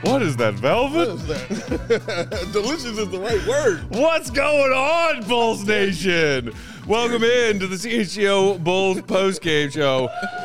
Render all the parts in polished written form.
What is that, velvet? What is that? Delicious is the right word. What's going on, Bulls Nation? Welcome in to the CHGO Bulls postgame show.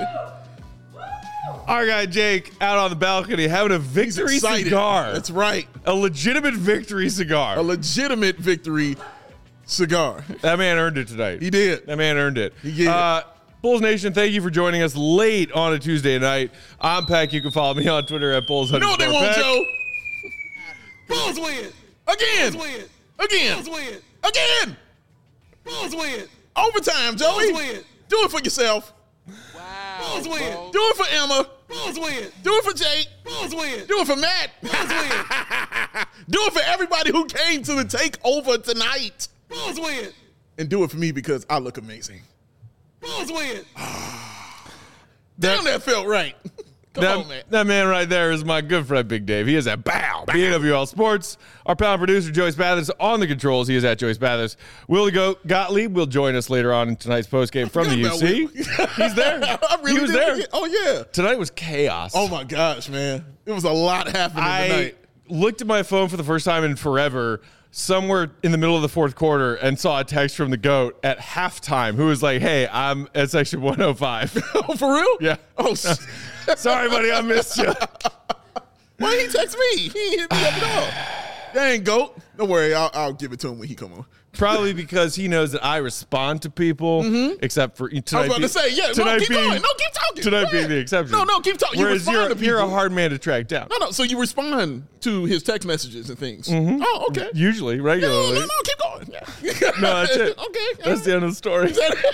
Our guy Jake out on the balcony having a victory cigar. That's right. A legitimate victory cigar. A legitimate victory cigar. That man earned it tonight. He did. That man earned it. He did. Bulls Nation, thank you for joining us late on a Tuesday night. I'm Peck. You can follow me on Twitter at Bulls. You know what they want, Peck. Joe? Bulls win. Again. Bulls win. Again. Bulls win. Again. Bulls win. Overtime, Joey. Bulls win. Do it for yourself. Wow. Bulls win. Do it for Emma. Bulls win. Do it for Jake. Bulls win. Do it for Matt. Bulls win. Do it for everybody who came to the takeover tonight. Bulls win. And do it for me because I look amazing. Bulls win. Damn, that felt right. Come on, man. That man right there is my good friend, Big Dave. He is at BWL Sports. Our panel producer, Joey Spathers, on the controls. He is at Joey Spathers. Willie Gottlieb will join us later on in tonight's postgame from the UC. He's there. He was there. Oh, yeah. Tonight was chaos. Oh, my gosh, man. It was a lot happening tonight. Looked at my phone for the first time in forever, somewhere in the middle of the fourth quarter, and saw a text from the GOAT at halftime who was like, hey, I'm at section 105. Oh, for real? Yeah. Oh, sorry, buddy, I missed you. Why didn't he text me? He hit me up at all. Dang, GOAT. Don't worry, I'll give it to him when he come on. Probably because he knows that I respond to people, except for tonight. I was about to say, yeah, no, keep going. No, keep talking. Tonight being the exception. No, keep talking. You Whereas respond to people. you're a hard man to track down. No, so you respond to his text messages and things. Oh, okay. Usually, regularly. No, keep going. No, that's it. Okay. That's the end of the story.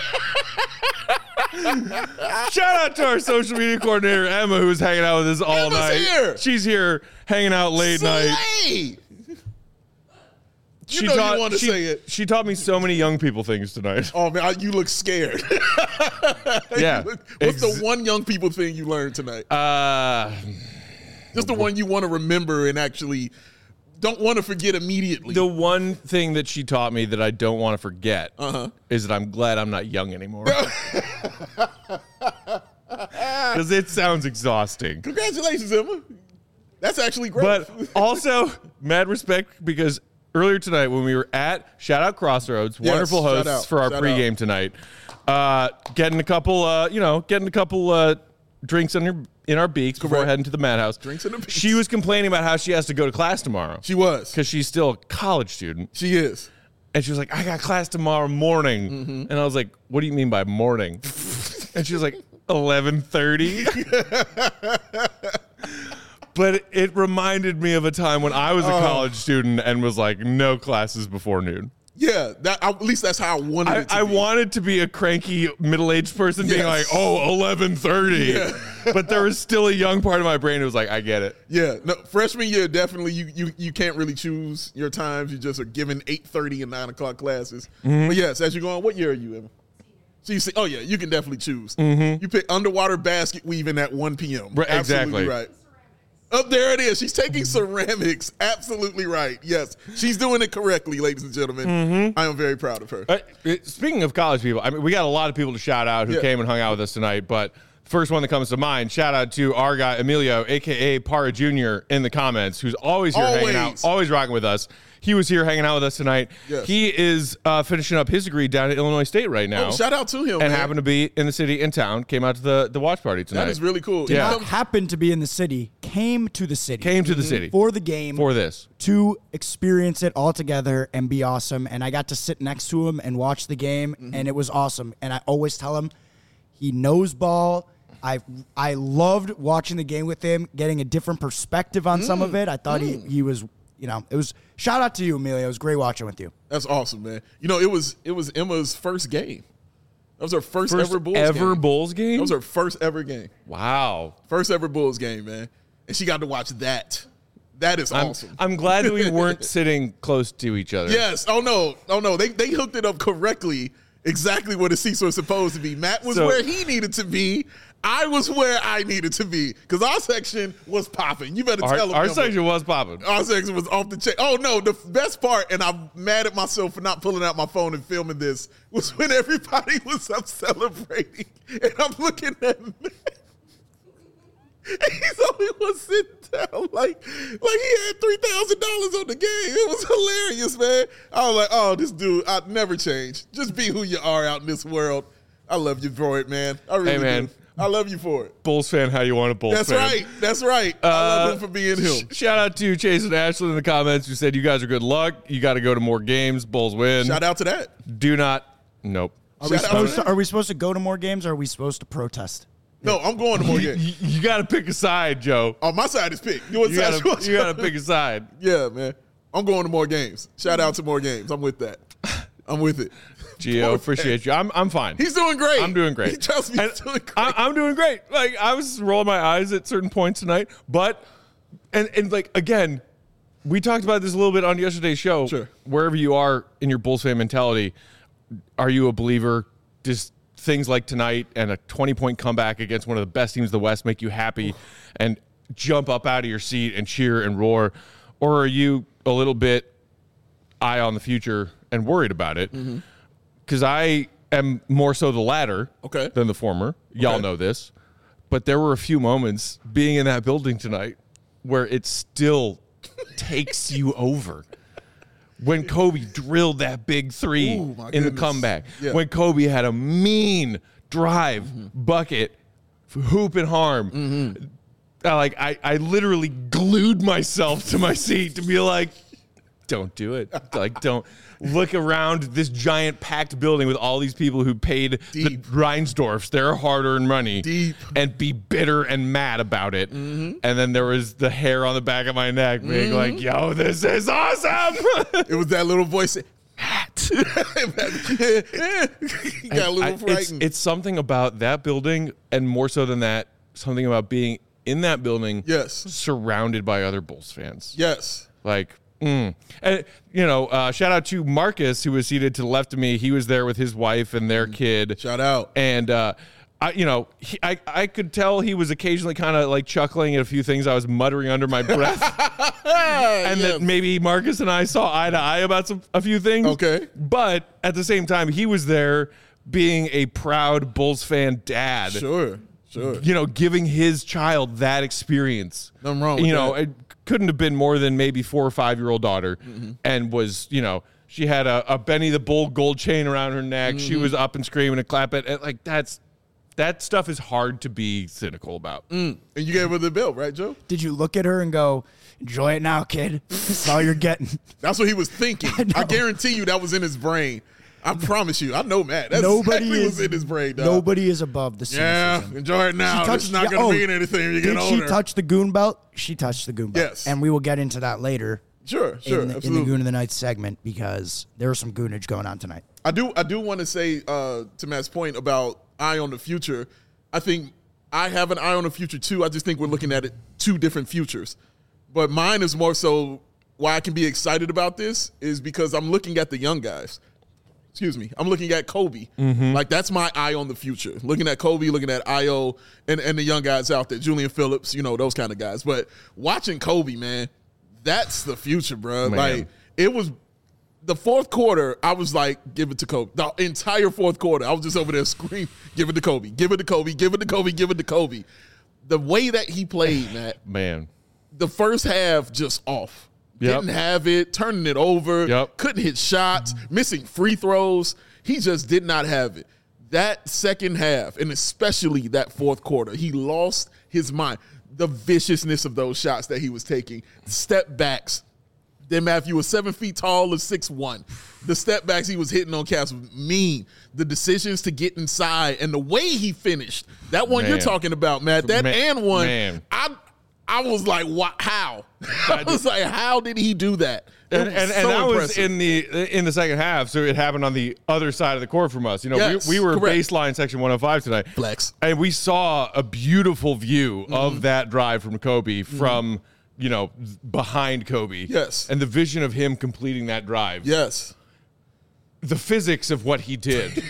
Shout out to our social media coordinator, Emma, who's hanging out with us all Emma's night. here. She's here hanging out late night. Slay. You know you want to say it. She taught me so many young people things tonight. Oh, man, you look scared. Yeah. What's the one young people thing you learned tonight? Just the one you want to remember and actually don't want to forget immediately. The one thing that she taught me that I don't want to forget is that I'm glad I'm not young anymore. Because it sounds exhausting. Congratulations, Emma. That's actually great. But also, mad respect because earlier tonight when we were at Shout Out Crossroads, wonderful hosts for our pregame tonight, getting a couple, drinks in our beaks before heading to the madhouse. Drinks in the beaks. She was complaining about how she has to go to class tomorrow. She was. Because she's still a college student. She is. And she was like, I got class tomorrow morning. And I was like, what do you mean by morning? And she was like, 11:30. But it reminded me of a time when I was a college student and was like, no classes before noon. Yeah, at least that's how I wanted it to be. I wanted to be a cranky middle-aged person being like, 11:30. Yeah. But there was still a young part of my brain that was like, I get it. Yeah, no, freshman year, definitely you can't really choose your times. You just are given 8:30 and 9 o'clock classes. But yes, as you go on, what year are you in? So you say, oh yeah, you can definitely choose. You pick underwater basket weaving at 1 p.m. Right, Absolutely exactly. right. Oh, there it is. She's taking ceramics. Absolutely right. Yes, she's doing it correctly, ladies and gentlemen. I am very proud of her. Speaking of college people, I mean, we got a lot of people to shout out who came and hung out with us tonight, but first one that comes to mind, shout out to our guy, Emilio, a.k.a. Para Jr. in the comments, who's always here hanging out, always rocking with us. He was here hanging out with us tonight. Yes. He is finishing up his degree down at Illinois State right now. Oh, shout out to him, and man. happened to be in the city, in town, came out to the watch party tonight. That is really cool. Did not happen to be in the city, came to the city. Came to the city. For the game. For this. To experience it all together and be awesome. And I got to sit next to him and watch the game, and it was awesome. And I always tell him, he knows ball. I loved watching the game with him, getting a different perspective on some of it. I thought he was, it was shout out to you, Emilio. It was great watching with you. That's awesome, man. It was Emma's first game. That was her first ever Bulls game. Bulls game? That was her first ever game. Wow. First ever Bulls game, man. And she got to watch that. That is awesome. I'm glad that we weren't sitting close to each other. Yes. Oh, no. They hooked it up correctly. Exactly what a seats was supposed to be. Matt was where he needed to be. I was where I needed to be because our section was popping. You better tell them. Our section was popping. Our section was off the chain. Oh, no. The best part, and I'm mad at myself for not pulling out my phone and filming this, was when everybody was up celebrating. And I'm looking at Matt. He's the only one sitting down like he had $3,000 on the game. It was hilarious, man. I was like, oh, this dude, I'd never change. Just be who you are out in this world. I love you for it, man. I really do. I love you for it. Bulls fan, how you want a Bulls fan. That's right. I love him for being him. Shout out to Chase and Ashley in the comments who said, you guys are good luck. You got to go to more games. Bulls win. Shout out to that. Do not. Nope. Are we supposed to go to more games, or are we supposed to protest? No, I'm going to more games. You got to pick a side, Joe. Oh, my side is picked. You got to pick a side. Yeah, man. I'm going to more games. Shout out to more games. I'm with that. I'm with it. Gio, appreciate you. I'm fine. He's doing great. I'm doing great. He tells me he's doing great. I'm doing great. Like, I was rolling my eyes at certain points tonight, but and like, again, we talked about this a little bit on yesterday's show. Sure. Wherever you are in your Bulls fan mentality, are you a believer? Just things like tonight and a 20-point comeback against one of the best teams in the West make you happy and jump up out of your seat and cheer and roar? Or are you a little bit eye on the future and worried about it? Because I am more so the latter than the former. Y'all know this. But there were a few moments being in that building tonight where it still takes you over. When Kobe drilled that big three in the comeback. Yeah. When Kobe had a mean drive, bucket, hoop and harm. I literally glued myself to my seat to be like, don't do it. Like, don't look around this giant packed building with all these people who paid the Reinsdorfs their hard-earned money and be bitter and mad about it. And then there was the hair on the back of my neck being like, yo, this is awesome. It was that little voice. Matt. He got a little frightened. It's something about that building, and more so than that, something about being in that building surrounded by other Bulls fans. Yes. Like, and, shout out to Marcus, who was seated to the left of me. He was there with his wife and their kid. Shout out. And, I could tell he was occasionally kind of like chuckling at a few things I was muttering under my breath. And that maybe Marcus and I saw eye to eye about a few things. Okay. But at the same time, he was there being a proud Bulls fan dad. Sure. Giving his child that experience. Nothing wrong with that. It couldn't have been more than maybe 4 or 5 year old daughter, and was, she had a Benny the Bull gold chain around her neck. She was up and screaming and clapping. And like that stuff is hard to be cynical about. And you gave her the bill, right, Joe? Did you look at her and go, enjoy it now, kid? That's all you're getting. That's what he was thinking. I guarantee you that was in his brain. I promise you. I know Matt. That's nobody exactly what's in his brain, dog. Nobody is above the cynicism. Yeah, enjoy it now. It's not going to mean anything when you get older. Did she touch the goon belt? She touched the goon belt. Yes. And we will get into that later. Sure, in the Goon of the Night segment, because there was some goonage going on tonight. I do want to say to Matt's point about eye on the future, I think I have an eye on the future too. I just think we're looking at it two different futures. But mine is more so why I can be excited about this is because I'm looking at the young guys. Excuse me. I'm looking at Kobe. Like, that's my eye on the future. Looking at Kobe, looking at Io, and the young guys out there, Julian Phillips, those kind of guys. But watching Kobe, man, that's the future, bro. Man. Like, it was the fourth quarter, I was like, give it to Kobe. The entire fourth quarter, I was just over there screaming, give it to Kobe, give it to Kobe, give it to Kobe, give it to Kobe. The way that he played, man. The first half just off. Didn't have it, turning it over, couldn't hit shots, missing free throws. He just did not have it. That second half, and especially that fourth quarter, he lost his mind. The viciousness of those shots that he was taking, step backs. Then Matthew was 7 feet tall or 6'1". The step backs he was hitting on cats was mean. The decisions to get inside and the way he finished. That one you're talking about, Matt. That and one. I was like, what? How? I was like, how did he do that? And that was in the second half, so it happened on the other side of the court from us. We were baseline section 105 tonight. Flex. And we saw a beautiful view of that drive from Kobe from, behind Kobe. Yes. And the vision of him completing that drive. Yes. The physics of what he did.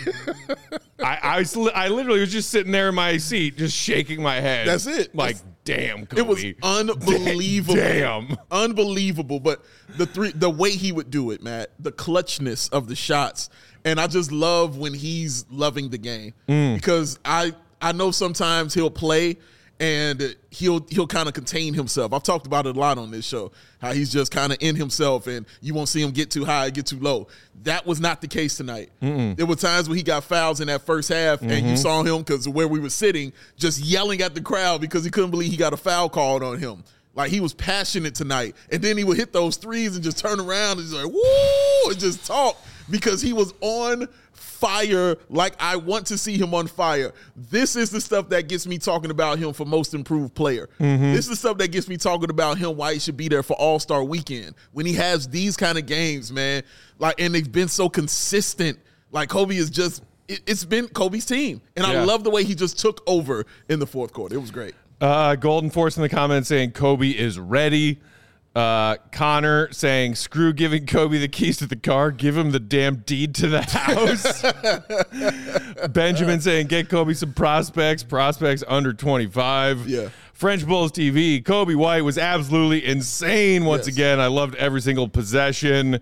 I literally was just sitting there in my seat, just shaking my head. That's it. Like, damn, Kobe. It was unbelievable. Damn. Unbelievable. But the way he would do it, Matt, the clutchness of the shots. And I just love when he's loving the game. Because I know sometimes he'll play and he'll kind of contain himself. I've talked about it a lot on this show, how he's just kind of in himself, and you won't see him get too high, get too low. That was not the case tonight. There were times where he got fouls in that first half, and you saw him, because of where we were sitting, just yelling at the crowd because he couldn't believe he got a foul called on him. Like, he was passionate tonight. And then he would hit those threes and just turn around and just like, woo, and just talk, because he was on fire like I want to see him on fire. This is the stuff that gets me talking about him for most improved player. This is the stuff that gets me talking about him, why he should be there for All-Star Weekend. When he has these kind of games, man, like, and they've been so consistent. Like, Kobe is just, it's been Kobe's team. And I love the way he just took over in the fourth quarter. It was great. Golden Force in the comments saying Kobe is ready. Connor saying, screw giving Kobe the keys to the car, give him the damn deed to the house. Benjamin saying, get Kobe some prospects under 25. Yeah. French Bulls TV, Kobe White was absolutely insane once again. I loved every single possession.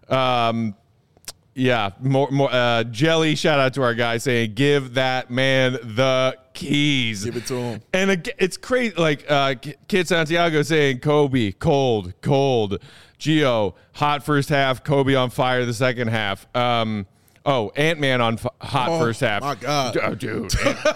More Jelly, shout out to our guy saying, give that man the keys. Give it to him. And it's crazy. Like Kid Santiago saying, Kobe, cold. Gio, hot first half. Kobe on fire the second half. Ant-Man on hot first half. My God. Oh, dude.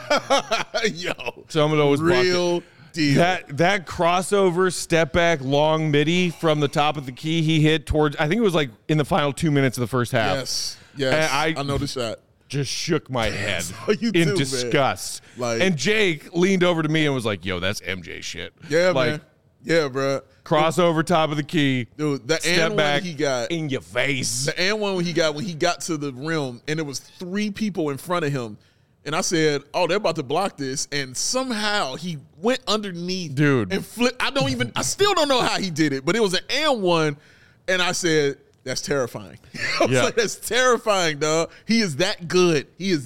Yo. Some of those real deal. That crossover step back long midi from the top of the key he hit towards, I think it was like in the final 2 minutes of the first half. Yes. I know the shot. Just shook my head in disgust. And Jake leaned over to me and was like, yo, that's MJ shit. Yeah, like, man. Yeah, bro. Crossover top of the key. Dude, the step and back one he got in your face. The and one when he got to the rim, and there was 3 people in front of him. And I said, oh, they're about to block this. And somehow he went underneath. Dude. And flipped. I still don't know how he did it, but it was an and one. And I said, that's terrifying. I was like, that's terrifying, dog. He is that good.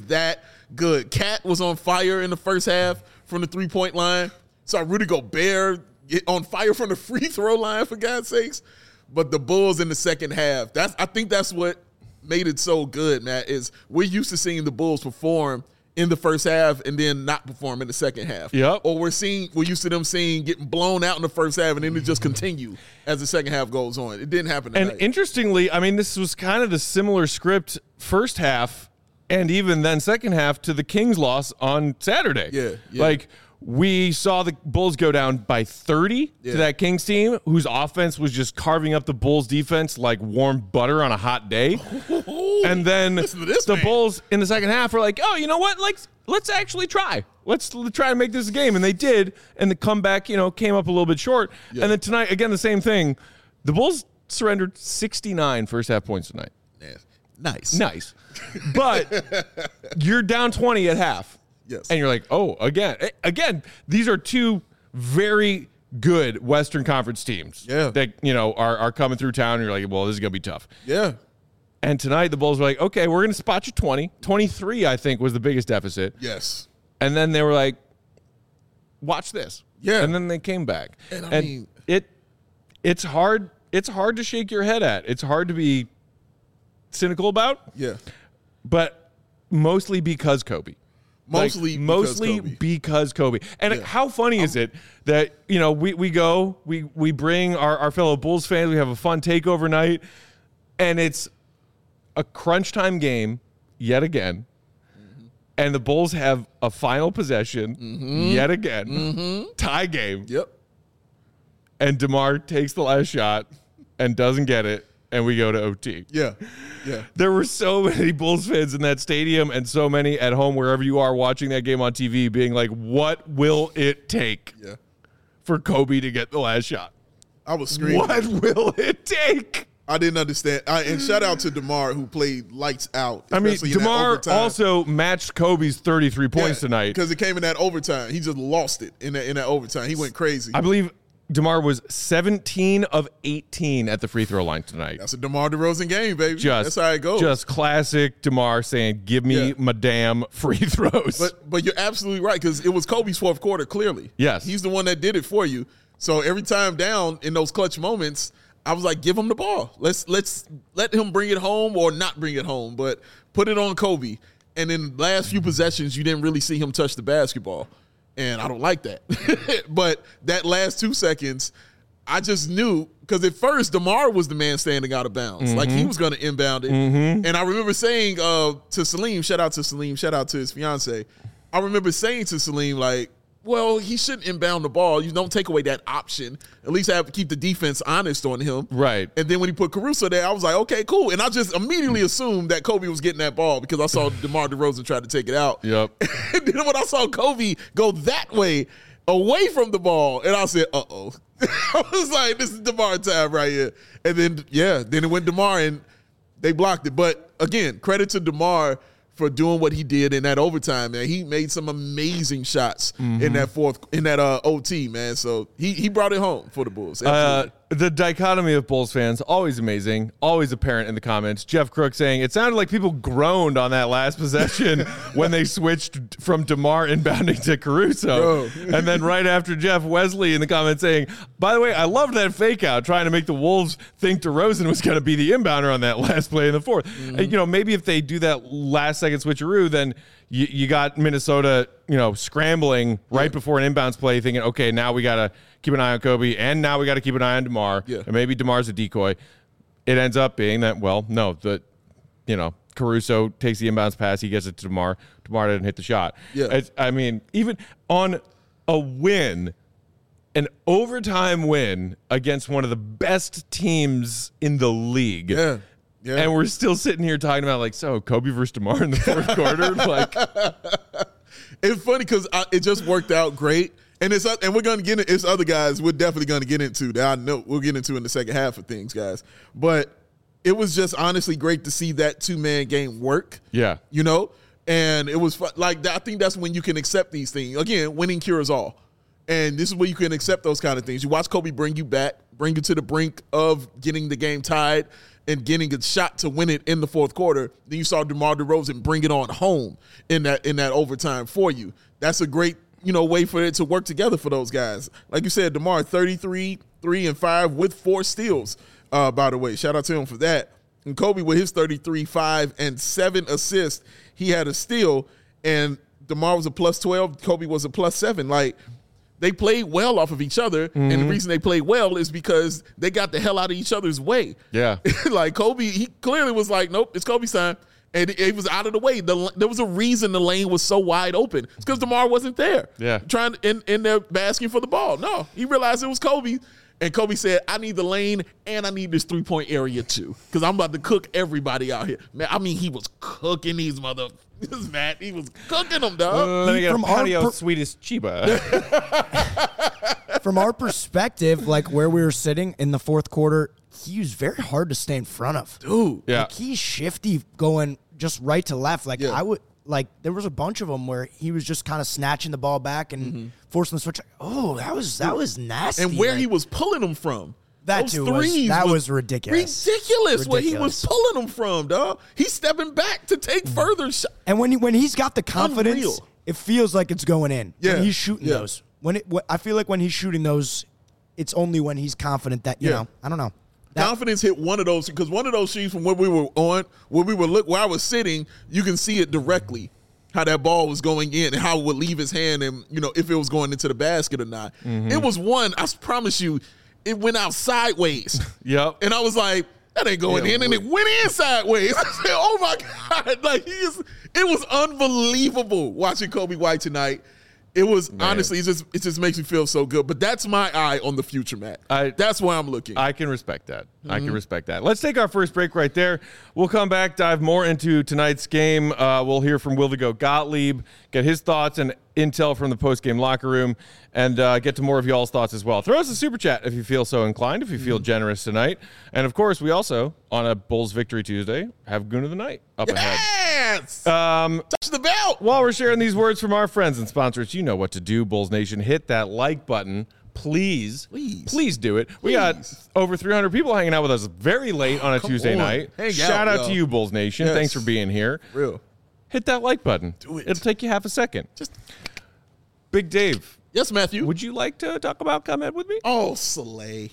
Cat was on fire in the first half from the 3-point line. Saw Rudy Gobert get on fire from the free throw line, for God's sakes. But the Bulls in the second half, I think that's what made it so good, Matt, is we're used to seeing the Bulls perform in the first half and then not perform in the second half. Yep. Or we're used to them getting blown out in the first half and then it just continue as the second half goes on. It didn't happen tonight. And interestingly, I mean, this was kind of the similar script first half and even then second half to the Kings loss on Saturday. Yeah. Like, we saw the Bulls go down by 30 to that Kings team, whose offense was just carving up the Bulls defense like warm butter on a hot day. And then the Bulls in the second half were like, oh, you know what? Let's actually try. Let's try to make this a game. And they did. And the comeback, came up a little bit short. Yeah. And then tonight, again, the same thing. The Bulls surrendered 69 first half points tonight. Yeah. Nice. But you're down 20 at half. Yes. And you're like, oh, again, these are 2 very good Western Conference teams that, are coming through town. And you're like, well, this is going to be tough. Yeah. And tonight the Bulls were like, okay, we're going to spot you 20. 23, I think, was the biggest deficit. Yes. And then they were like, watch this. Yeah. And then they came back. And I mean, it's hard to shake your head at. It's hard to be cynical about. Yeah. But mostly because Kobe. Mostly because Kobe. And how funny is it that, we bring our fellow Bulls fans, we have a fun takeover night, and it's a crunch time game yet again. And the Bulls have a final possession yet again. Tie game. Yep. And DeMar takes the last shot and doesn't get it. And we go to OT. Yeah. There were so many Bulls fans in that stadium and so many at home, wherever you are watching that game on TV, being like, what will it take for Kobe to get the last shot? I was screaming. What will it take? I didn't understand. And shout out to DeMar, who played lights out. I mean, DeMar also matched Kobe's 33 points tonight. Because it came in that overtime. He just lost it in that overtime. He went crazy. I believe DeMar was 17 of 18 at the free throw line tonight. That's a DeMar DeRozan game, baby. That's how it goes. Just classic DeMar saying, give me my damn free throws. But you're absolutely right, because it was Kobe's fourth quarter, clearly. Yes. He's the one that did it for you. So every time down in those clutch moments, I was like, give him the ball. Let's let him bring it home or not bring it home, but put it on Kobe. And in the last few possessions, you didn't really see him touch the basketball. and I don't like that. But that last 2 seconds, I just knew, because at first DeMar was the man standing out of bounds, like he was going to inbound it. And I remember saying to Salim, shout out to his fiance. I remember saying to Salim, like, well, he shouldn't inbound the ball. You don't take away that option. At least have to keep the defense honest on him. Right. And then when he put Caruso there, I was like, okay, cool. And I just immediately assumed that Kobe was getting that ball because I saw DeMar DeRozan try to take it out. Yep. And then when I saw Kobe go that way, away from the ball, and I said, uh-oh. I was like, this is DeMar time right here. And then, then it went DeMar, and they blocked it. But, again, credit to DeMar for doing what he did in that overtime, man. He made some amazing shots in that OT, man. So he brought it home for the Bulls. The dichotomy of Bulls fans, always amazing, always apparent in the comments. Jeff Crook saying, it sounded like people groaned on that last possession when they switched from DeMar inbounding to Caruso. And then right after Jeff, Wesley in the comments saying, by the way, I loved that fake out, trying to make the Wolves think DeRozan was going to be the inbounder on that last play in the fourth. And, maybe if they do that last second switcheroo, then you got Minnesota, scrambling right before an inbounds play, thinking, okay, now we got to keep an eye on Kobe, and now we got to keep an eye on DeMar, and maybe DeMar's a decoy. It ends up being that, Caruso takes the inbounds pass, he gets it to DeMar. DeMar didn't hit the shot. Yeah. Even on a win, an overtime win against one of the best teams in the league. Yeah. And we're still sitting here talking about, Kobe versus DeMar in the fourth quarter. It's funny because it just worked out great. And we're going to get into it's other guys we're definitely going to get into that I know we'll get into in the second half of things, guys. But it was just honestly great to see that two-man game work. Yeah. And it was fun. I think that's when you can accept these things. Again, winning cures all. And this is where you can accept those kind of things. You watch Kobe bring you back, bring you to the brink of getting the game tied and getting a shot to win it in the fourth quarter. Then you saw DeMar DeRozan bring it on home in that overtime for you. That's a great, way for it to work together for those guys. Like you said, DeMar 33, 3 and 5 with 4 steals, by the way. Shout out to him for that. And Kobe with his 33, 5 and 7 assists. He had a steal, and DeMar was a plus 12. Kobe was a plus 7. They played well off of each other, and the reason they played well is because they got the hell out of each other's way. Yeah. Kobe, he clearly was like, nope, it's Kobe's time. And it was out of the way. There was a reason the lane was so wide open. It's because DeMar wasn't there. Yeah. Trying in there basking for the ball. No, he realized it was Kobe. And Kobe said, I need the lane and I need this three-point area too. Because I'm about to cook everybody out here. Man, he was cooking these motherfuckers, Matt. He was cooking them, dog. Let me get a patio Swedish Chiba. From our perspective, where we were sitting in the fourth quarter, he was very hard to stay in front of. Dude. Yeah. He's shifty going just right to left. There was a bunch of them where he was just kind of snatching the ball back and forcing the switch. Oh, that was nasty. And where he was pulling them from. That too was ridiculous. Ridiculous where he was pulling them from, dog. He's stepping back to take further shots. And when he's got the confidence, Unreal. It feels like it's going in. Yeah. When he's shooting those. I feel like when he's shooting those, it's only when he's confident that, I don't know. Confidence hit one of those, because one of those sheets from where we were where I was sitting, you can see it directly how that ball was going in and how it would leave his hand and, if it was going into the basket or not. It was one, I promise you, it went out sideways. Yep. And I was like, that ain't going in. And it went in sideways. I said, oh my God. It was unbelievable watching Kobe White tonight. It was honestly, it just makes me feel so good. But that's my eye on the future, Matt. That's why I'm looking. I can respect that. I can respect that. Let's take our first break right there. We'll come back, dive more into tonight's game. We'll hear from Wildigo Gottlieb, get his thoughts and intel from the post-game locker room, and get to more of y'all's thoughts as well. Throw us a super chat if you feel so inclined, if you feel generous tonight. And, of course, we also, on a Bulls Victory Tuesday, have Goon of the Night up ahead. Yes! Touch the belt! While we're sharing these words from our friends and sponsors, you know what to do, Bulls Nation. Hit that like button. Please do it. We got over 300 people hanging out with us very late on a Tuesday night. Shout out to you, Bulls Nation. Thanks for being here. Real. Hit that like button. Do it. It'll take you half a second. Big Dave. Yes, Matthew. Would you like to talk about ComEd with me? Oh, Slay.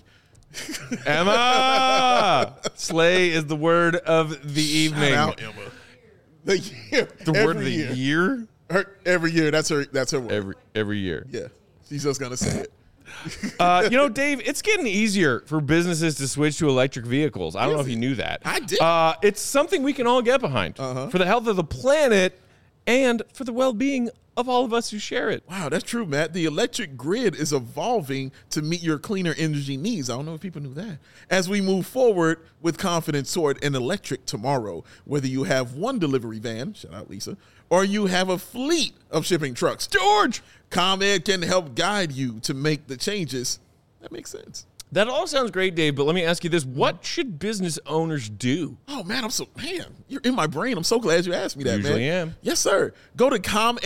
Emma! Slay is the word of the evening. Shout out, Emma. The word of the year? Every year. That's her word. Every year. Yeah. She's just gonna say it. Dave, it's getting easier for businesses to switch to electric vehicles. I don't know if you knew that. I did. It's something we can all get behind for the health of the planet and for the well-being of all of us who share it. Wow, that's true, Matt. The electric grid is evolving to meet your cleaner energy needs. I don't know if people knew that. As we move forward with confidence toward an electric tomorrow, whether you have one delivery van, shout out Lisa, or you have a fleet of shipping trucks, George, ComEd can help guide you to make the changes. That makes sense. That all sounds great, Dave, but let me ask you this. What should business owners do? Oh, man, you're in my brain. I'm so glad you asked me that, Usually man. am. Yes, sir. Go to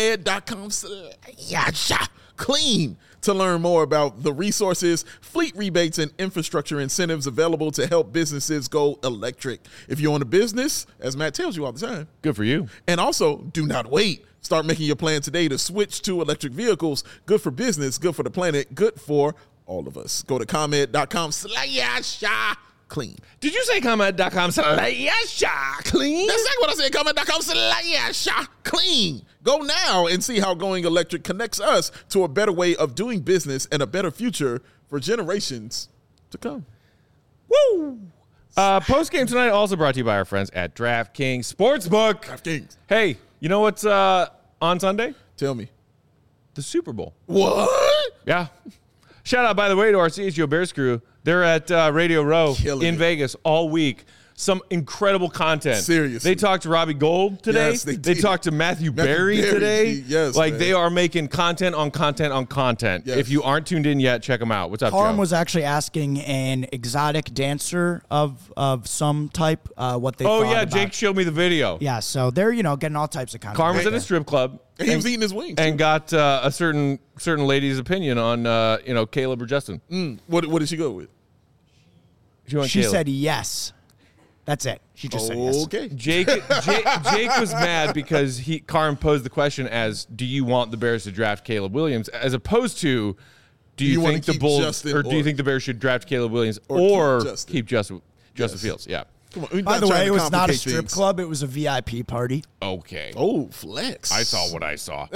ComEd.com/clean to learn more about the resources, fleet rebates, and infrastructure incentives available to help businesses go electric. If you own a business, as Matt tells you all the time. Good for you. And also, do not wait. Start making your plan today to switch to electric vehicles. Good for business, good for the planet, good for all of us. Go to ComEd.com/clean. Did you say ComEd.com/clean? That's exactly what I said. ComEd.com/clean. Go now and see how going electric connects us to a better way of doing business and a better future for generations to come. Woo! Post game tonight also brought to you by our friends at DraftKings Sportsbook. DraftKings. Hey, you know what's on Sunday? Tell me. The Super Bowl. What? Yeah. Shout out, by the way, to our CHGO Bears crew. They're at Radio Row Killing in it. Vegas all week. Some incredible content. Seriously. They talked to Robbie Gold today. Yes, they They did. talked to Matthew Berry Berry, today. yes, Like, man. they are making content on content on content. Yes. If you aren't tuned in yet, check them out. What's up, Carm Joe? was actually asking an exotic dancer of some type what they Oh, thought yeah. about. Jake showed me the video. Yeah, so they're, getting all types of content. Carm was out at a there. strip club. And he was eating his wings. And got a certain lady's opinion on, Caleb or Justin. What did she go with? She went She Caleb. said yes. That's it. She just said yes. Okay. Jake was mad because Carm posed the question as, do you want the Bears to draft Caleb Williams, as opposed to, do you wanna think the keep Bulls Justin or do you or- think the Bears should draft Caleb Williams or or keep Justin? Justin Fields? Yeah. Come on. we're By not the trying way, to it was not a complicate strip things. club. It was a VIP party. Okay. Oh, flex. I saw what I saw.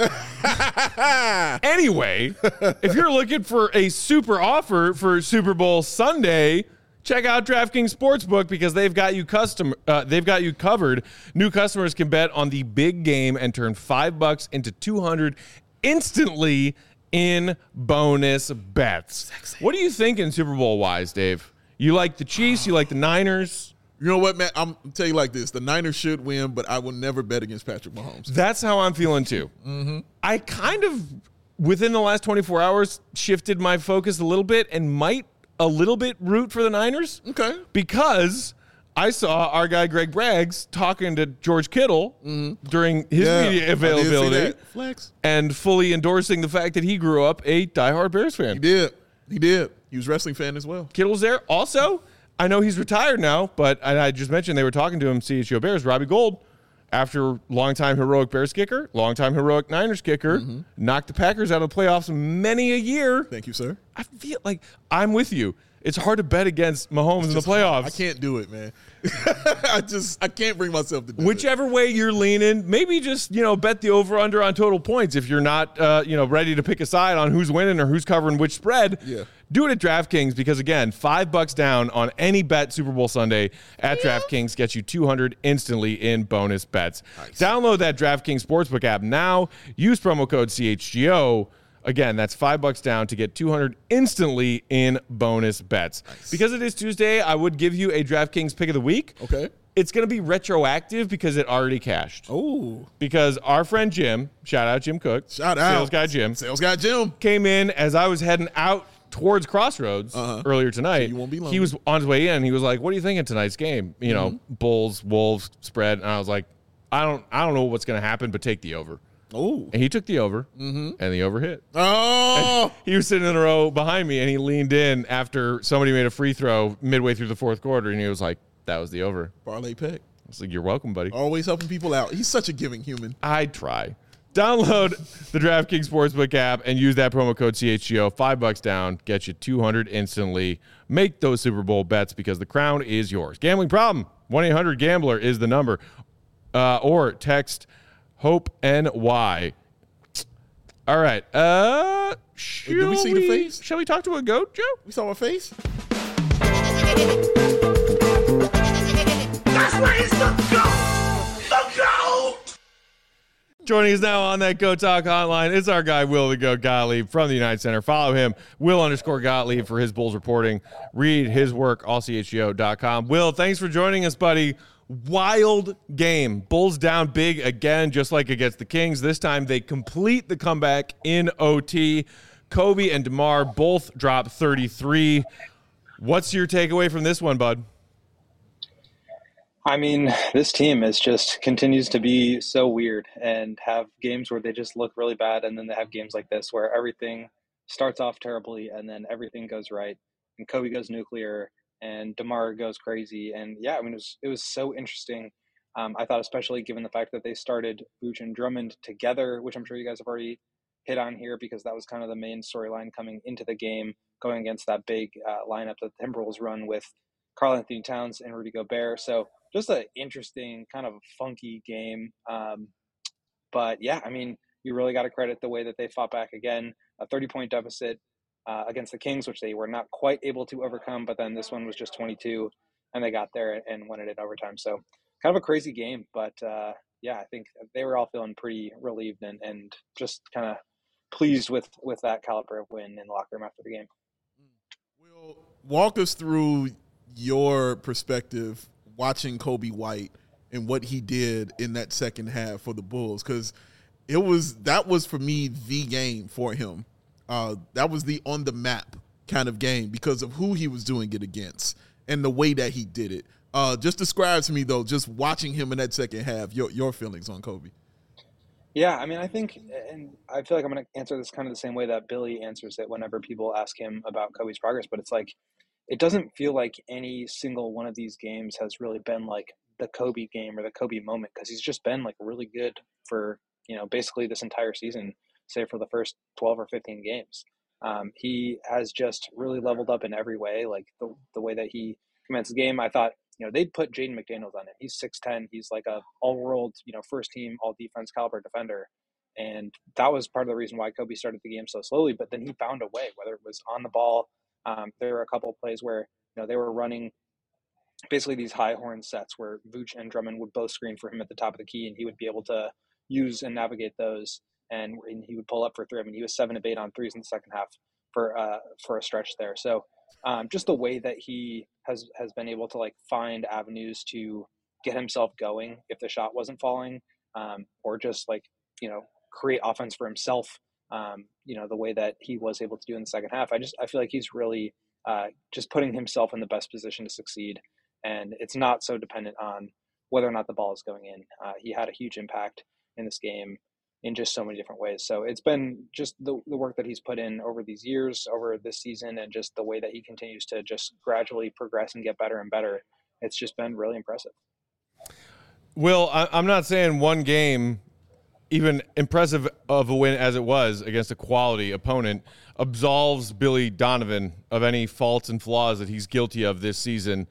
Anyway, if you're looking for a super offer for Super Bowl Sunday, check out DraftKings Sportsbook because they've got you covered. New customers can bet on the big game and turn $5 into $200 instantly in bonus bets. What are you thinking Super Bowl wise, Dave? You like the Chiefs? You like the Niners? You know what, Matt? I'm tell you like this: the Niners should win, but I will never bet against Patrick Mahomes. That's how I'm feeling too. I kind of, within the last 24 hours, shifted my focus a little bit and might a little bit root for the Niners. Okay. Because I saw our guy Greg Braggs talking to George Kittle during his media I did see availability that. Flex. and fully endorsing the fact that he grew up a diehard Bears fan. He did. He was a wrestling fan as well. Kittle's there. Also, I know he's retired now, but I just mentioned they were talking to him, CHGO Bears, Robbie Gold, after longtime heroic Bears kicker, longtime heroic Niners kicker, knocked the Packers out of the playoffs many a year. Thank you, sir. I feel like I'm with you. It's hard to bet against Mahomes in the playoffs. I can't do it, man. I can't bring myself to do Whichever way you're leaning, maybe just, bet the over-under on total points if you're not, ready to pick a side on who's winning or who's covering which spread. Yeah. Do it at DraftKings because, again, $5 down on any bet Super Bowl Sunday at DraftKings gets you $200 instantly in bonus bets. Nice. Download that DraftKings Sportsbook app now. Use promo code CHGO. Again, that's $5 down to get $200 instantly in bonus bets. Nice. Because it is Tuesday, I would give you a DraftKings pick of the week. Okay. It's going to be retroactive because it already cashed. Oh, Because our friend Jim, shout out Jim Cook, shout out. Sales Guy Jim, Came in as I was heading out towards Crossroads earlier tonight. So you won't be lonely. He was on his way in. He was like, "What are you thinking tonight's game? Bulls, Wolves spread." And I was like, "I don't know what's going to happen, but take the over." Oh. And he took the over, and the over hit. Oh. He was sitting in the row behind me, and he leaned in after somebody made a free throw midway through the fourth quarter, and he was like, "That was the over." Parlay pick. I was like, "You're welcome, buddy." Always helping people out. He's such a giving human. I try. Download the DraftKings Sportsbook app and use that promo code CHGO. $5 down, get you $200 instantly. Make those Super Bowl bets because the crown is yours. Gambling problem? 1-800-GAMBLER is the number. Or text HOPE-NY All right. Did we see the face? Shall we talk to a goat, Joe? We saw a face? That's why he's the GOAT! The GOAT! Joining us now on that Go Talk hotline is our guy, Will the Goat Gottlieb from the United Center. Follow him, Will_Gottlieb, for his Bulls reporting. Read his work, allchgo.com. Will, thanks for joining us, buddy. Wild game. Bulls down big again, just like against the Kings. This time they complete the comeback in OT. Kobe and DeMar both drop 33. What's your takeaway from this one, bud? I mean, this team is just continues to be so weird and have games where they just look really bad, and then they have games like this where everything starts off terribly and then everything goes right, and Kobe goes nuclear and DeMar goes crazy. And yeah, I mean, it was so interesting. I thought, especially given the fact that they started Vooch and Drummond together, which I'm sure you guys have already hit on here, because that was kind of the main storyline coming into the game, going against that big lineup that the Timberwolves run with Karl-Anthony Towns and Rudy Gobert. So just an interesting, kind of funky game. But yeah, I mean, you really got to credit the way that they fought back again. A 30-point deficit against the Kings, which they were not quite able to overcome. But then this one was just 22, and they got there and won it in overtime. So kind of a crazy game. But yeah, I think they were all feeling pretty relieved and just kind of pleased with that caliber of win in the locker room after the game. Will, walk us through your perspective watching Kobe White and what he did in that second half for the Bulls, because that was for me the game for him. That was the on the map kind of game because of who he was doing it against and the way that he did it. Just describe to me, though, just watching him in that second half, your feelings on Kobe. Yeah, I mean, I think, and I feel like I'm going to answer this kind of the same way that Billy answers it whenever people ask him about Kobe's progress, but it's like, it doesn't feel like any single one of these games has really been like the Kobe game or the Kobe moment, because he's just been like really good for, basically this entire season, say for the first 12 or 15 games. He has just really leveled up in every way, like the way that he commands the game. I thought, they'd put Jaden McDaniels on it. He's 6'10". He's like a all-world, first team, all-defense caliber defender. And that was part of the reason why Kobe started the game so slowly. But then he found a way, whether it was on the ball. There were a couple of plays where, they were running basically these high horn sets where Vooch and Drummond would both screen for him at the top of the key, and he would be able to use and navigate those. And he would pull up for three. I mean, he was 7 of 8 on threes in the second half for a stretch there. So just the way that he has been able to like find avenues to get himself going if the shot wasn't falling, or just like, create offense for himself. The way that he was able to do in the second half, I feel like he's really just putting himself in the best position to succeed. And it's not so dependent on whether or not the ball is going in. He had a huge impact in this game in just so many different ways. So it's been just the work that he's put in over these years, over this season, and just the way that he continues to just gradually progress and get better and better. It's just been really impressive. Will, I'm not saying one game, even impressive of a win as it was against a quality opponent, absolves Billy Donovan of any faults and flaws that he's guilty of this season.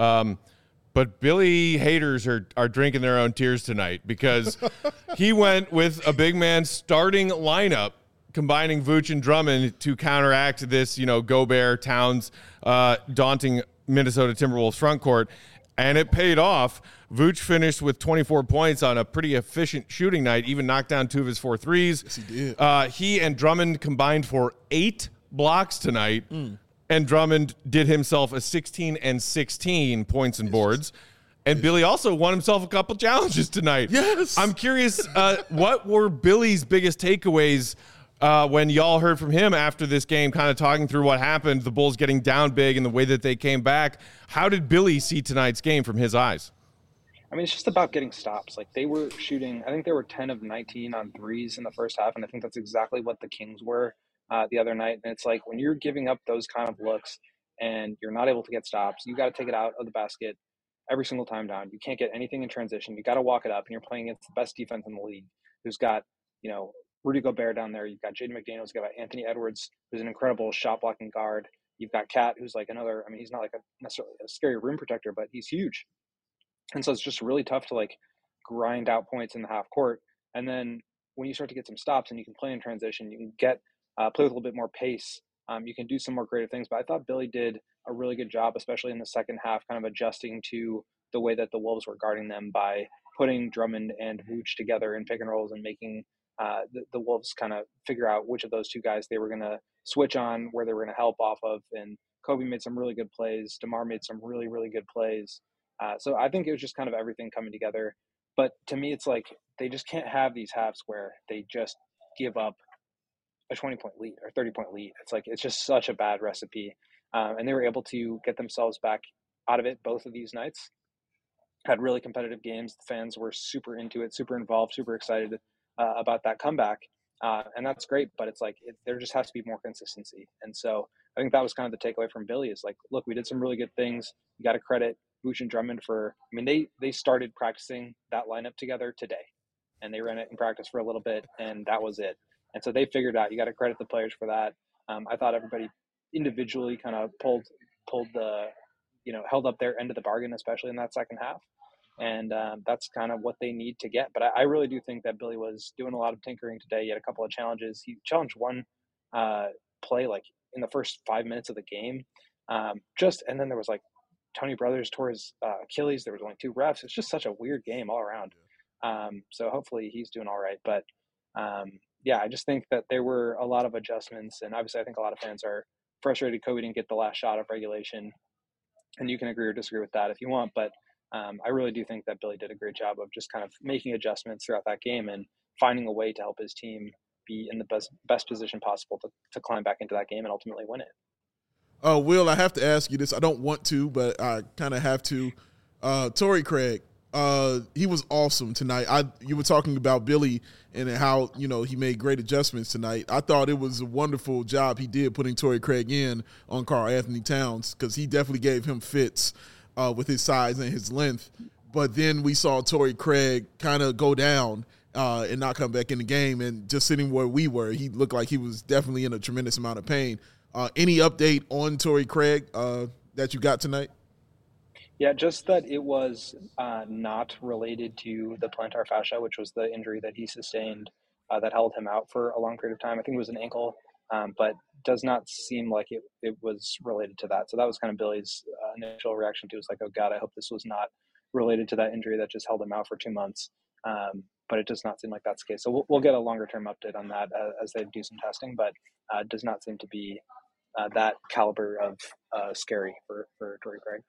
But Billy haters are drinking their own tears tonight, because he went with a big man starting lineup, combining Vooch and Drummond to counteract this, Gobert, Towns, daunting Minnesota Timberwolves front court. And it paid off. Vooch finished with 24 points on a pretty efficient shooting night, even knocked down 2 of his 4 threes. Yes, he did. He and Drummond combined for 8 blocks tonight. And Drummond did himself a 16 and 16 points and boards. And Billy also won himself a couple challenges tonight. Yes. I'm curious, what were Billy's biggest takeaways when y'all heard from him after this game, kind of talking through what happened, the Bulls getting down big and the way that they came back? How did Billy see tonight's game from his eyes? I mean, it's just about getting stops. Like, they were shooting, I think they were 10 of 19 on threes in the first half, and I think that's exactly what the Kings were the other night. And it's like, when you're giving up those kind of looks and you're not able to get stops, you got to take it out of the basket every single time down. You can't get anything in transition. You got to walk it up, and you're playing against the best defense in the league, who's got, Rudy Gobert down there. You've got Jaden McDaniels. You've got Anthony Edwards, who's an incredible shot blocking guard. You've got Cat, who's like another, I mean, he's not like necessarily a scary rim protector, but he's huge. And so it's just really tough to like grind out points in the half court. And then when you start to get some stops and you can play in transition, you can get play with a little bit more pace. You can do some more creative things. But I thought Billy did a really good job, especially in the second half, kind of adjusting to the way that the Wolves were guarding them by putting Drummond and Vooch together in pick and rolls and making the Wolves kind of figure out which of those two guys they were going to switch on, where they were going to help off of. And Kobe made some really good plays. DeMar made some really, really good plays. So I think it was just kind of everything coming together. But to me, it's like they just can't have these halves where they just give up a 20-point lead or 30-point lead. It's like it's just such a bad recipe. And they were able to get themselves back out of it both of these nights. Had really competitive games. The fans were super into it, super involved, super excited about that comeback. And that's great, but it's like there just has to be more consistency. And so I think that was kind of the takeaway from Billy is like, look, we did some really good things. You got to credit Vooch and Drummond for, I mean, they started practicing that lineup together today, and they ran it in practice for a little bit, and that was it. And so they figured out, you got to credit the players for that. I thought everybody individually kind of pulled the, held up their end of the bargain, especially in that second half. And that's kind of what they need to get. But I really do think that Billy was doing a lot of tinkering today. He had a couple of challenges. He challenged one play like in the first 5 minutes of the game. And then there was like Tony Brothers tore his Achilles. There was only 2 refs. It's just such a weird game all around. So hopefully he's doing all right. But I just think that there were a lot of adjustments. And obviously I think a lot of fans are frustrated Kobe didn't get the last shot of regulation. And you can agree or disagree with that if you want. But I really do think that Billy did a great job of just kind of making adjustments throughout that game and finding a way to help his team be in the best position possible to climb back into that game and ultimately win it. Will, I have to ask you this. I don't want to, but I kind of have to. Torrey Craig, he was awesome tonight. You were talking about Billy and how, he made great adjustments tonight. I thought it was a wonderful job he did putting Torrey Craig in on Karl-Anthony Towns because he definitely gave him fits with his size and his length. But then we saw Torrey Craig kind of go down and not come back in the game. And just sitting where we were, he looked like he was definitely in a tremendous amount of pain. Any update on Torrey Craig that you got tonight? Yeah, just that it was not related to the plantar fascia, which was the injury that he sustained that held him out for a long period of time. I think it was an ankle, but does not seem like it was related to that. So that was kind of Billy's initial reaction to it. Was like, oh God, I hope this was not related to that injury that just held him out for 2 months. But it does not seem like that's the case. So we'll get a longer term update on that as they do some testing, but it does not seem to be that caliber of scary for Torrey Craig.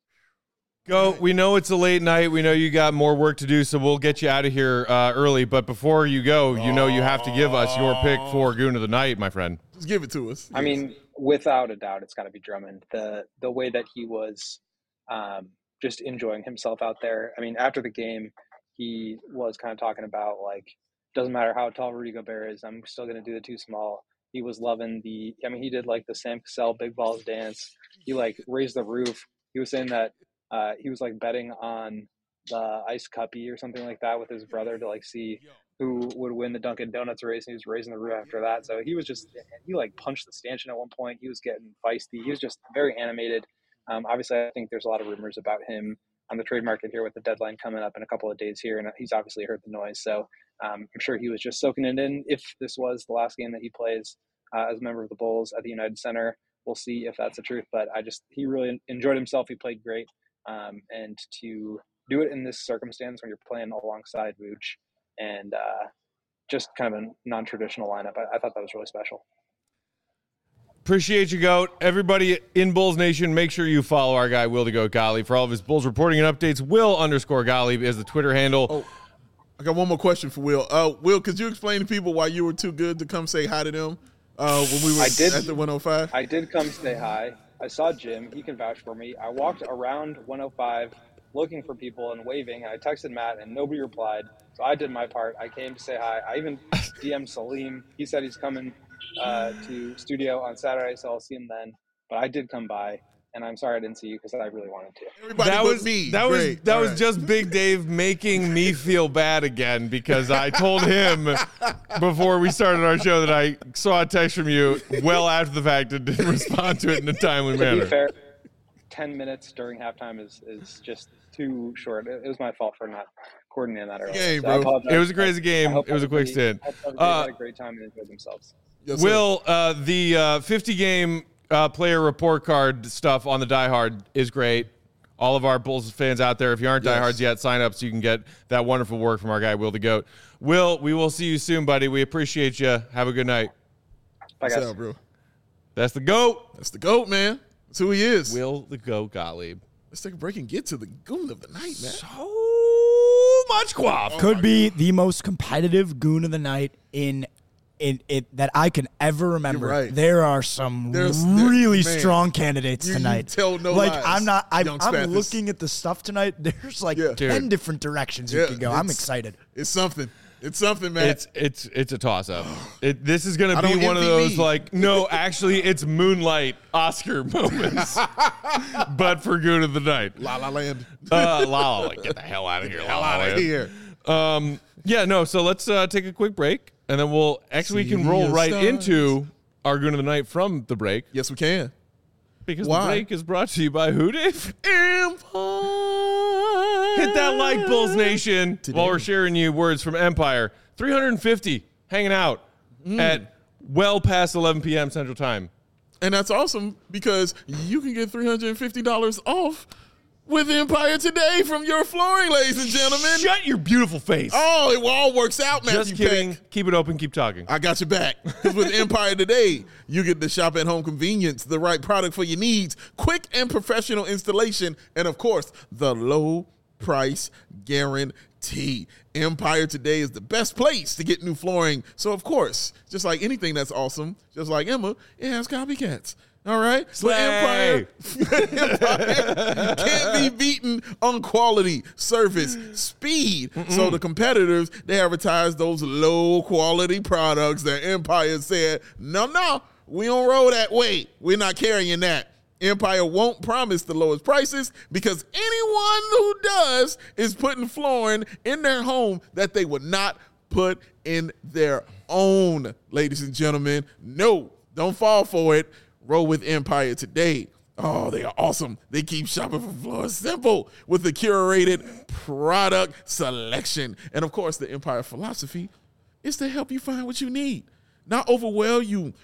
Go. We know it's a late night. We know you got more work to do, so we'll get you out of here early. But before you go, you have to give us your pick for Goon of the Night, my friend. Just give it to us. I mean, without a doubt, it's got to be Drummond. The way that he was just enjoying himself out there. I mean, after the game, he was kind of talking about, like, doesn't matter how tall Rudy Gobert is, I'm still going to do the 2 small. He was loving he did, like, the Sam Cassell big balls dance. He, like, raised the roof. He was saying that he was like betting on the Ice Cuppy or something like that with his brother to like see who would win the Dunkin' Donuts race. And he was raising the roof after that. So he like punched the stanchion at one point. He was getting feisty. He was just very animated. Obviously, I think there's a lot of rumors about him on the trade market here with the deadline coming up in a couple of days here. And he's obviously heard the noise. So I'm sure he was just soaking it in. If this was the last game that he plays as a member of the Bulls at the United Center, we'll see if that's the truth. But he really enjoyed himself. He played great. And to do it in this circumstance when you're playing alongside Vooch and just kind of a non-traditional lineup, I thought that was really special. Appreciate you, Goat. Everybody in Bulls Nation, make sure you follow our guy, Will the Goat Gottlieb, for all of his Bulls reporting and updates. Will_Gottlieb is the Twitter handle. Oh, I got one more question for Will. Will, could you explain to people why you were too good to come say hi to them when we were at the 105? I did come say hi. I saw Jim. He can vouch for me. I walked around 105 looking for people and waving. I texted Matt, and nobody replied. So I did my part. I came to say hi. I even DM'd Salim. He said he's coming to studio on Saturday, so I'll see him then. But I did come by, and I'm sorry I didn't see you because I really wanted to. Everybody that was just Big Dave making me feel bad again because I told him before we started our show that I saw a text from you well after the fact and didn't respond to it in a timely manner. 10 minutes during halftime is just too short. It was my fault for not coordinating that earlier. Hey, so I bro. apologize. It was a crazy game. It was a quick stint. I hope everybody had a great time and enjoyed themselves. Yes, Will, the 50-game player report card stuff on the Die Hard is great. All of our Bulls fans out there, if you aren't diehards yet, sign up so you can get that wonderful work from our guy, Will the Goat. Will, we will see you soon, buddy. We appreciate you. Have a good night. Bye, guys. What's up, bro? That's the GOAT. That's the GOAT, man. That's who he is. Will the Goat Gottlieb. Let's take a break and get to the goon of the night, man. So much quaff. Could be the most competitive goon of the night in it that I can ever remember. You're right. There are some There's really man, strong candidates tonight. tell no like lies, I'm Young I'm Spathis. looking at the stuff tonight. There's like 10 different directions you could go. I'm excited. It's something. It's something, man. It's a toss-up. This is going to I be don't one of envy those, me. like, no, actually, it's Moonlight Oscar moments, but for Goon of the Night. La La Land. La La Land. Get the hell out of here. La La Out of Land. here. Yeah, no, so let's take a quick break, and then we can See roll the right stars. into our Goon of the Night from the break, Yes, we can. because Why? the break is brought to you by who, Dave? Empire. Hit that like, Bulls Nation, while we're sharing you words from Empire. 350 hanging out at well past 11 p.m. Central Time. And that's awesome because you can get $350 off with Empire today from your flooring, ladies and gentlemen. Shut your beautiful face. Oh, it all works out, Matthew Just kidding. Peck. Keep it open. Keep talking. I got your back. Because with Empire today, you get the shop at home convenience, the right product for your needs, quick and professional installation, and of course, the low price guarantee. Empire today is the best place to get new flooring. So of course, just like anything that's awesome, just like Emma, it has copycats. All right? But Empire can't be beaten on quality, service, speed. So the competitors, they advertise those low quality products that Empire said, no, we don't roll that way. We're not carrying that. Empire won't promise the lowest prices because anyone who does is putting flooring in their home that they would not put in their own. Ladies and gentlemen, no, don't fall for it. Roll with Empire today. Oh, they are awesome. They keep shopping for floors simple with the curated product selection. And of course, the Empire philosophy is to help you find what you need, not overwhelm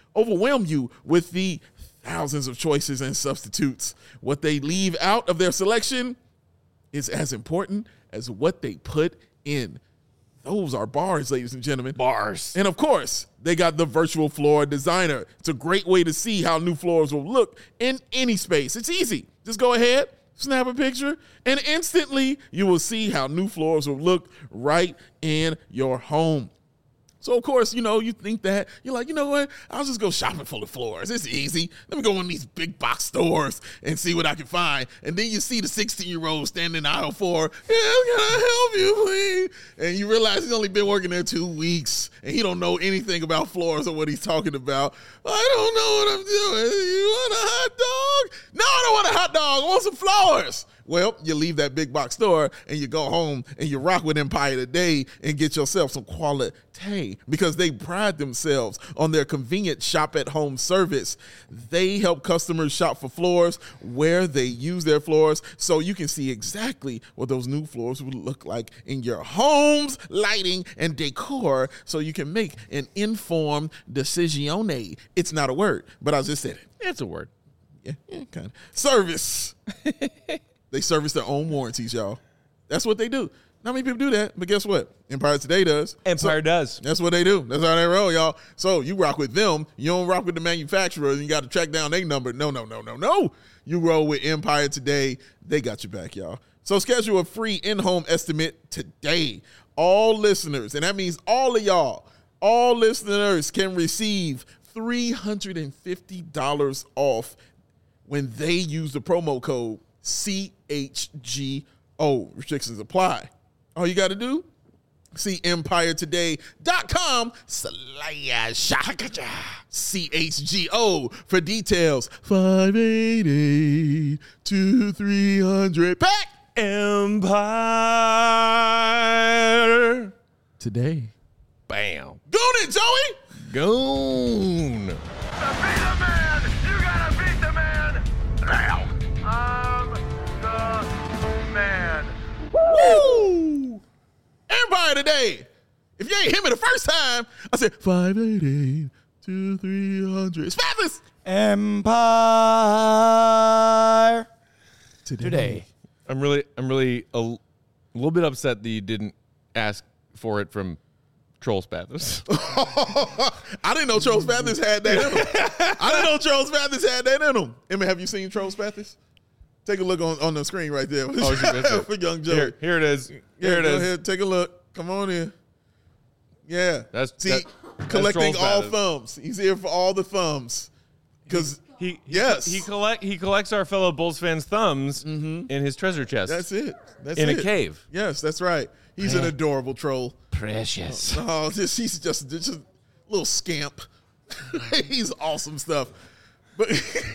you with the thousands of choices and substitutes. What they leave out of their selection is as important as what they put in. Those are bars, ladies and gentlemen. Bars. And of course, they got the virtual floor designer. It's a great way to see how new floors will look in any space. It's easy. Just go ahead, snap a picture, and instantly you will see how new floors will look right in your home. So, of course, you think that. You're like, you know what? I'll just go shopping for the floors. It's easy. Let me go in these big box stores and see what I can find. And then you see the 16-year-old standing in aisle 4. Yeah, can I help you, please? And you realize he's only been working there 2 weeks, and he don't know anything about floors or what he's talking about. I don't know what I'm doing. You want a hot dog? No, I don't want a hot dog. I want some floors. Well, you leave that big box store and you go home and you rock with Empire today and get yourself some quality because they pride themselves on their convenient shop-at-home service. They help customers shop for floors where they use their floors so you can see exactly what those new floors would look like in your home's lighting and decor so you can make an informed decisione. It's not a word, but I just said it. It's a word. Yeah, kind of. Service. They service their own warranties, y'all. That's what they do. Not many people do that, but guess what? Empire today does. Empire does. That's what they do. That's how they roll, y'all. So you rock with them. You don't rock with the manufacturer, and you got to track down their number. No. You roll with Empire today. They got your back, y'all. So schedule a free in-home estimate today. All listeners, and that means all of y'all, all listeners can receive $350 off when they use the promo code CHGO. Restrictions apply. All you got to do, see EmpireToday.com/CHGO for details. 588 2300 pack Empire today. Bam. Goon it, Joey. Goon. To be the man, you gotta beat the man now. Empire today. If you ain't hear me the first time, I said 588 2300. Spathis. Empire today. I'm really a little bit upset that you didn't ask for it from Troll Spathis. I didn't know Troll Spathis had that in him. Emma, have you seen Troll Spathis? Take a look on the screen right there. For young Joe. Here it is. Here it is. Ahead, take a look. Come on in. Yeah. Collecting all thumbs. He's here for all the thumbs. Because he collects our fellow Bulls fans' thumbs in his treasure chest. That's it. In a cave. Yes, that's right. He's an adorable troll. Precious. Oh, he's just a little scamp. He's awesome stuff. But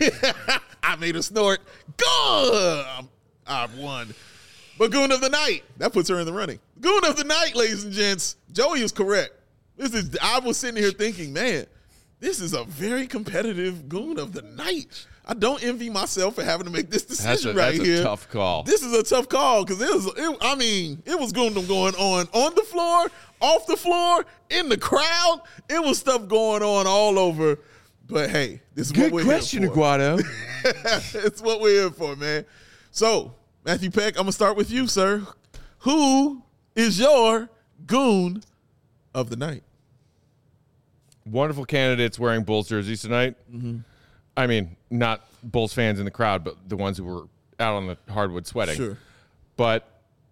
I made a snort. Good. I won. But Goon of the Night, that puts her in the running. Goon of the Night, ladies and gents. Joey is correct. I was sitting here thinking, man, this is a very competitive Goon of the Night. I don't envy myself for having to make this decision right here. That's a tough call. This is a tough call because it was Goondom going on the floor, off the floor, in the crowd. It was stuff going on all over. But hey, this is what we're here for. Good question, Aguado. It's what we're here for, man. So, Matthew Peck, I'm going to start with you, sir. Who is your Goon of the Night? Wonderful candidates wearing Bulls jerseys tonight. I mean, not Bulls fans in the crowd, but the ones who were out on the hardwood sweating. Sure. But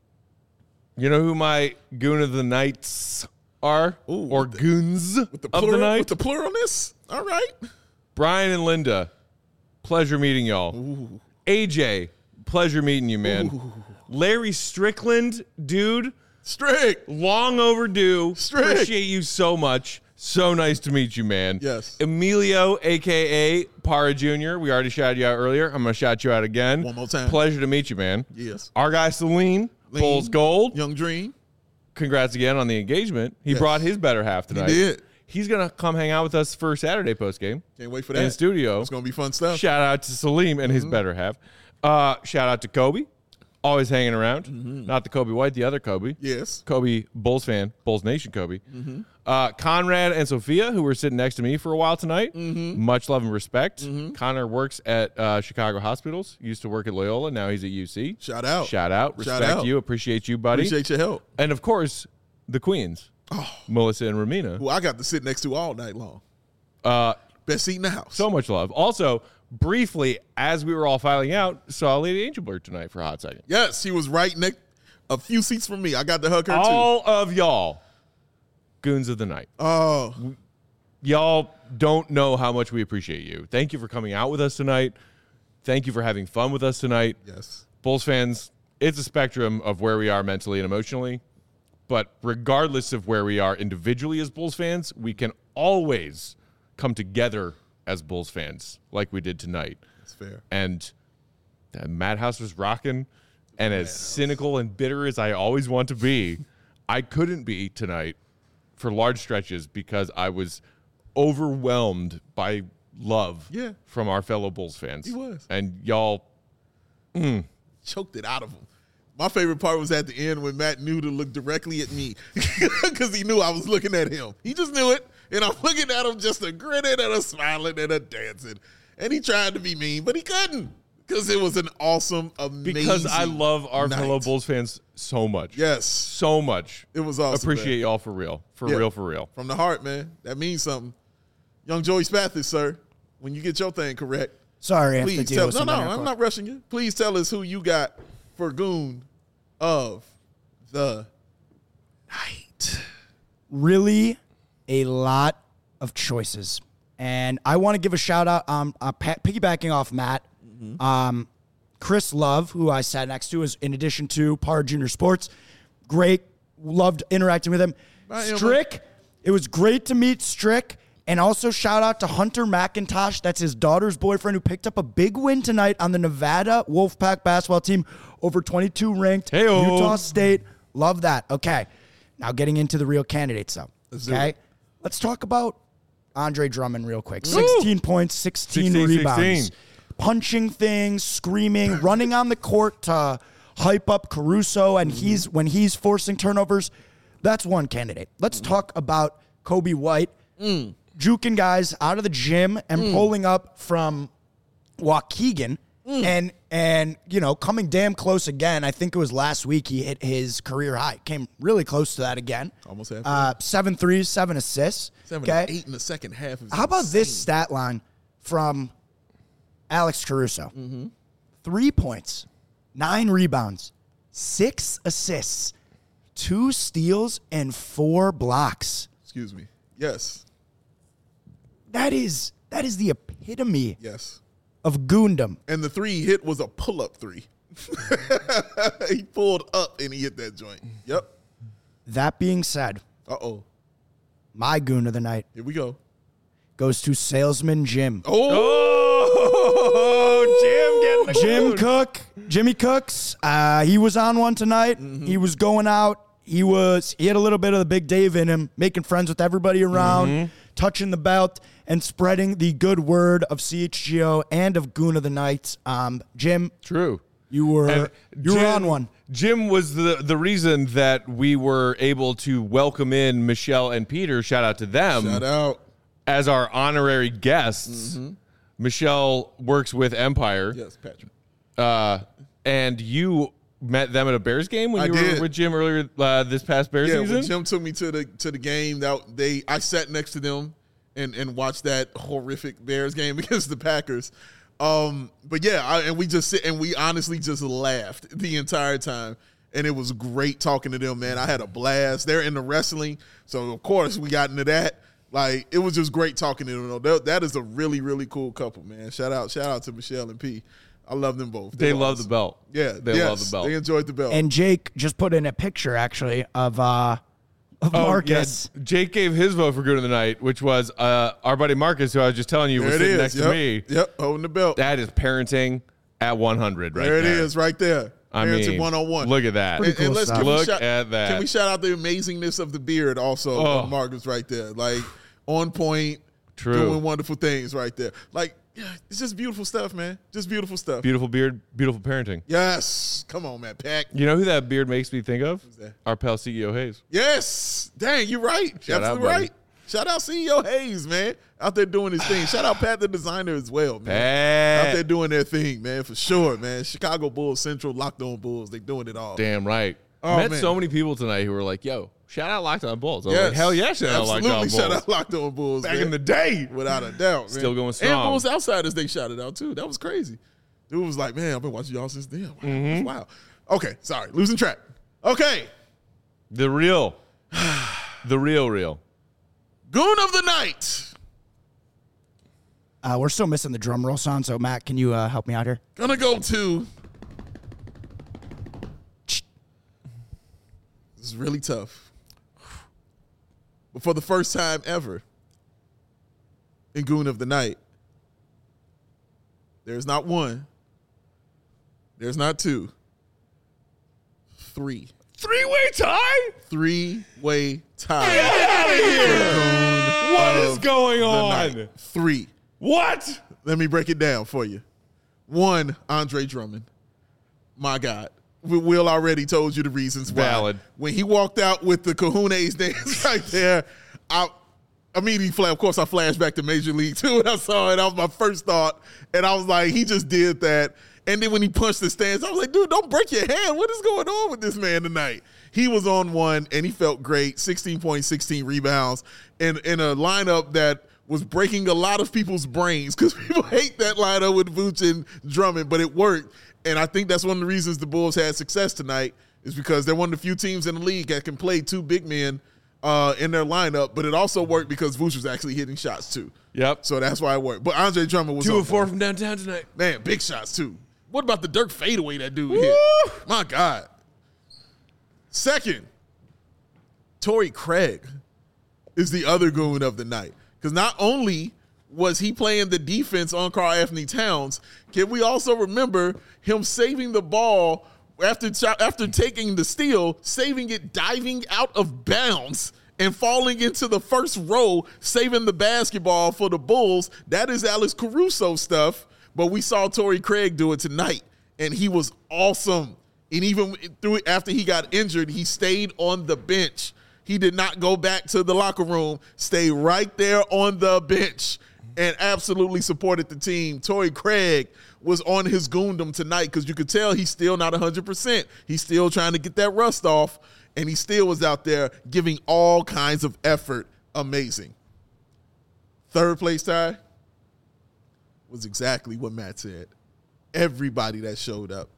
you know who my Goon of the Nights are? Or Goons of the Night? With the pluralness? All right. Brian and Linda, pleasure meeting y'all. AJ, pleasure meeting you, man. Larry Strickland, dude. Strick. Long overdue. Strick. Appreciate you so much. So nice to meet you, man. Yes. Emilio, a.k.a. Para Jr. We already shouted you out earlier. I'm going to shout you out again. One more time. Pleasure to meet you, man. Yes. Our guy, Celine, Bulls Gold. Young Dream. Congrats again on the engagement. He brought his better half tonight. He did. He's going to come hang out with us for Saturday postgame. Can't wait for that. In the studio. It's going to be fun stuff. Shout out to Salim and his better half. Shout out to Kobe. Always hanging around. Not the Kobe White, the other Kobe. Yes. Kobe, Bulls fan, Bulls Nation Kobe. Conrad and Sophia, who were sitting next to me for a while tonight. Much love and respect. Connor works at Chicago Hospitals. Used to work at Loyola. Now he's at UC. Shout out. Shout out. Respect you. Appreciate you, buddy. Appreciate your help. And, of course, the Queens. Melissa and Ramina. Who I got to sit next to all night long. Best seat in the house. So much love. Also, briefly, as we were all filing out, saw Lady Angelberg tonight for a hot second. Yes, she was right next, a few seats from me. I got to hug her, all of y'all, Goons of the Night. Oh. Y'all don't know how much we appreciate you. Thank you for coming out with us tonight. Thank you for having fun with us tonight. Yes. Bulls fans, it's a spectrum of where we are mentally and emotionally. But regardless of where we are individually as Bulls fans, we can always come together as Bulls fans like we did tonight. That's fair. And Madhouse was rocking. And as cynical and bitter as I always want to be, I couldn't be tonight for large stretches because I was overwhelmed by love from our fellow Bulls fans. He was. And y'all choked it out of him. My favorite part was at the end when Matt knew to look directly at me because he knew I was looking at him. He just knew it. And I'm looking at him just a grinning and a smiling and a dancing. And he tried to be mean, but he couldn't because it was an awesome, amazing Because I love our night. fellow Bulls fans so much. Yes. So much. It was awesome. Appreciate man. y'all for real. For real. From the heart, man. That means something. Young Joey Spathis, sir, when you get your thing correct. Sorry, I have to please deal tell with No, some I'm intercourse. not rushing you. Please tell us who you got for Goon of the Night. Really a lot of choices. And I want to give a shout out, piggybacking off Matt, Chris Love, who I sat next to, is in addition to Par Junior Sports. Great. Loved interacting with him. Bye, Strick, it was great to meet Strick. And also shout out to Hunter McIntosh. That's his daughter's boyfriend who picked up a big win tonight on the Nevada Wolfpack basketball team over 22 ranked Hey-o. Utah State. Love that. Okay. Now getting into the real candidates though. Okay. Let's talk about Andre Drummond real quick. 16 points, 16 rebounds. 16. Punching things, screaming, running on the court to hype up Caruso, and when he's forcing turnovers. That's one candidate. Let's talk about Kobe White juking guys out of the gym and pulling up from Waukegan and coming damn close again. I think it was last week he hit his career high. Came really close to that again. Almost half. 7 threes, 7 assists. 7 and 8 in the second half. How about this stat line from Alex Caruso? 3 points, 9 rebounds, 6 assists, 2 steals, and 4 blocks. Excuse me. Yes. That is the epitome Yes. of goondom. And the 3 he hit was a pull-up 3. He pulled up and he hit that joint. Yep. That being said, Uh-oh. my goon of the night Here we go. goes to Salesman Jim. Oh, Jim getting the Cook, Jimmy Cooks. He was on one tonight. He was going out. He had a little bit of the Big Dave in him, making friends with everybody around, touching the belt, and spreading the good word of CHGO and of Goon of the Night. Jim, True. you were on one. Jim was the reason that we were able to welcome in Michelle and Peter. Shout out to them. Shout out. As our honorary guests. Michelle works with Empire. Yes, Patrick. And you met them at a Bears game when I you did. were with Jim earlier this past Bears season? When Jim took me to the game, I sat next to them and watched that horrific Bears game against the Packers. But yeah, we honestly just laughed the entire time, and it was great talking to them, man. I had a blast. They're into wrestling, so of course we got into that. Like, it was just great talking to them. That is a really, really cool couple, man. Shout out to Michelle and P. I love them both. They love the belt. Yeah, they love the belt. They enjoyed the belt. And Jake just put in a picture, actually, of Marcus. Yeah. Jake gave his vote for Good of the Night, which was our buddy Marcus, who I was just telling you was sitting next to me. Yep, holding the belt. That is parenting at 100 right there. There it is right there. Parenting 101. Look at that. Pretty cool stuff. Look at that. Can we shout out the amazingness of the beard also of Marcus right there? Like, on point, doing wonderful things right there. Like, yeah, it's just beautiful stuff, man. Just beautiful stuff. Beautiful beard, beautiful parenting. Yes. Come on, man. Pack. You know who that beard makes me think of? Who's that? Our pal CEO Hayes. Yes. Dang, you're right. Absolutely right. Shout out CEO Hayes, man. Out there doing his thing. Shout out Pat the designer as well, man. Pat. Out there doing their thing, man, for sure, man. Chicago Bulls, Central, Locked On Bulls. They doing it all. Damn right. Oh, Met man. so many people tonight who were like, yo, shout out Locked On Bulls. I was like, hell yeah, shout out Locked On Bulls. Shout out Locked On Bulls. Back man. in the day. Without a doubt, man. Still going strong. And Bulls Outsiders, they shouted out too. That was crazy. Dude was like, man, I've been watching y'all since then. Wow. Okay, sorry. Losing track. Okay. The real. Goon of the Night. We're still missing the drum roll sound, so Matt, can you help me out here? Gonna go to. This is really tough. But for the first time ever in Goon of the Night, there's not one, there's not two, 3. Three-way tie? 3-way tie. Get out of here. What is going on? 3. What? Let me break it down for you. 1, Andre Drummond. My God. Will already told you the reasons why. Valid. When he walked out with the Kahuna's dance right there, I immediately, of course, I flashed back to Major League too when I saw it. That was my first thought. And I was like, he just did that. And then when he punched the stands, I was like, dude, don't break your hand. What is going on with this man tonight? He was on one, and he felt great. 16 points, 16 rebounds, in a lineup that was breaking a lot of people's brains because people hate that lineup with Vooch and Drummond, but it worked. And I think that's one of the reasons the Bulls had success tonight is because they're one of the few teams in the league that can play 2 big men in their lineup, but it also worked because Vooch was actually hitting shots too. Yep. So that's why it worked. But Andre Drummond was 2 of 4 from downtown tonight. Man, big shots too. What about the Dirk fadeaway that dude hit? My God. Second, Torrey Craig is the other goon of the night. Because not only was he playing the defense on Karl-Anthony Towns, can we also remember him saving the ball after taking the steal, saving it, diving out of bounds, and falling into the first row, saving the basketball for the Bulls? That is Alex Caruso stuff. But we saw Torrey Craig do it tonight, and he was awesome. And even after he got injured, he stayed on the bench He did not go back to the locker room, stay right there on the bench and absolutely supported the team. Torrey Craig was on his Goondom tonight because you could tell he's still not 100%. He's still trying to get that rust off, and he still was out there giving all kinds of effort. Amazing. Third place tie was exactly what Matt said. Everybody that showed up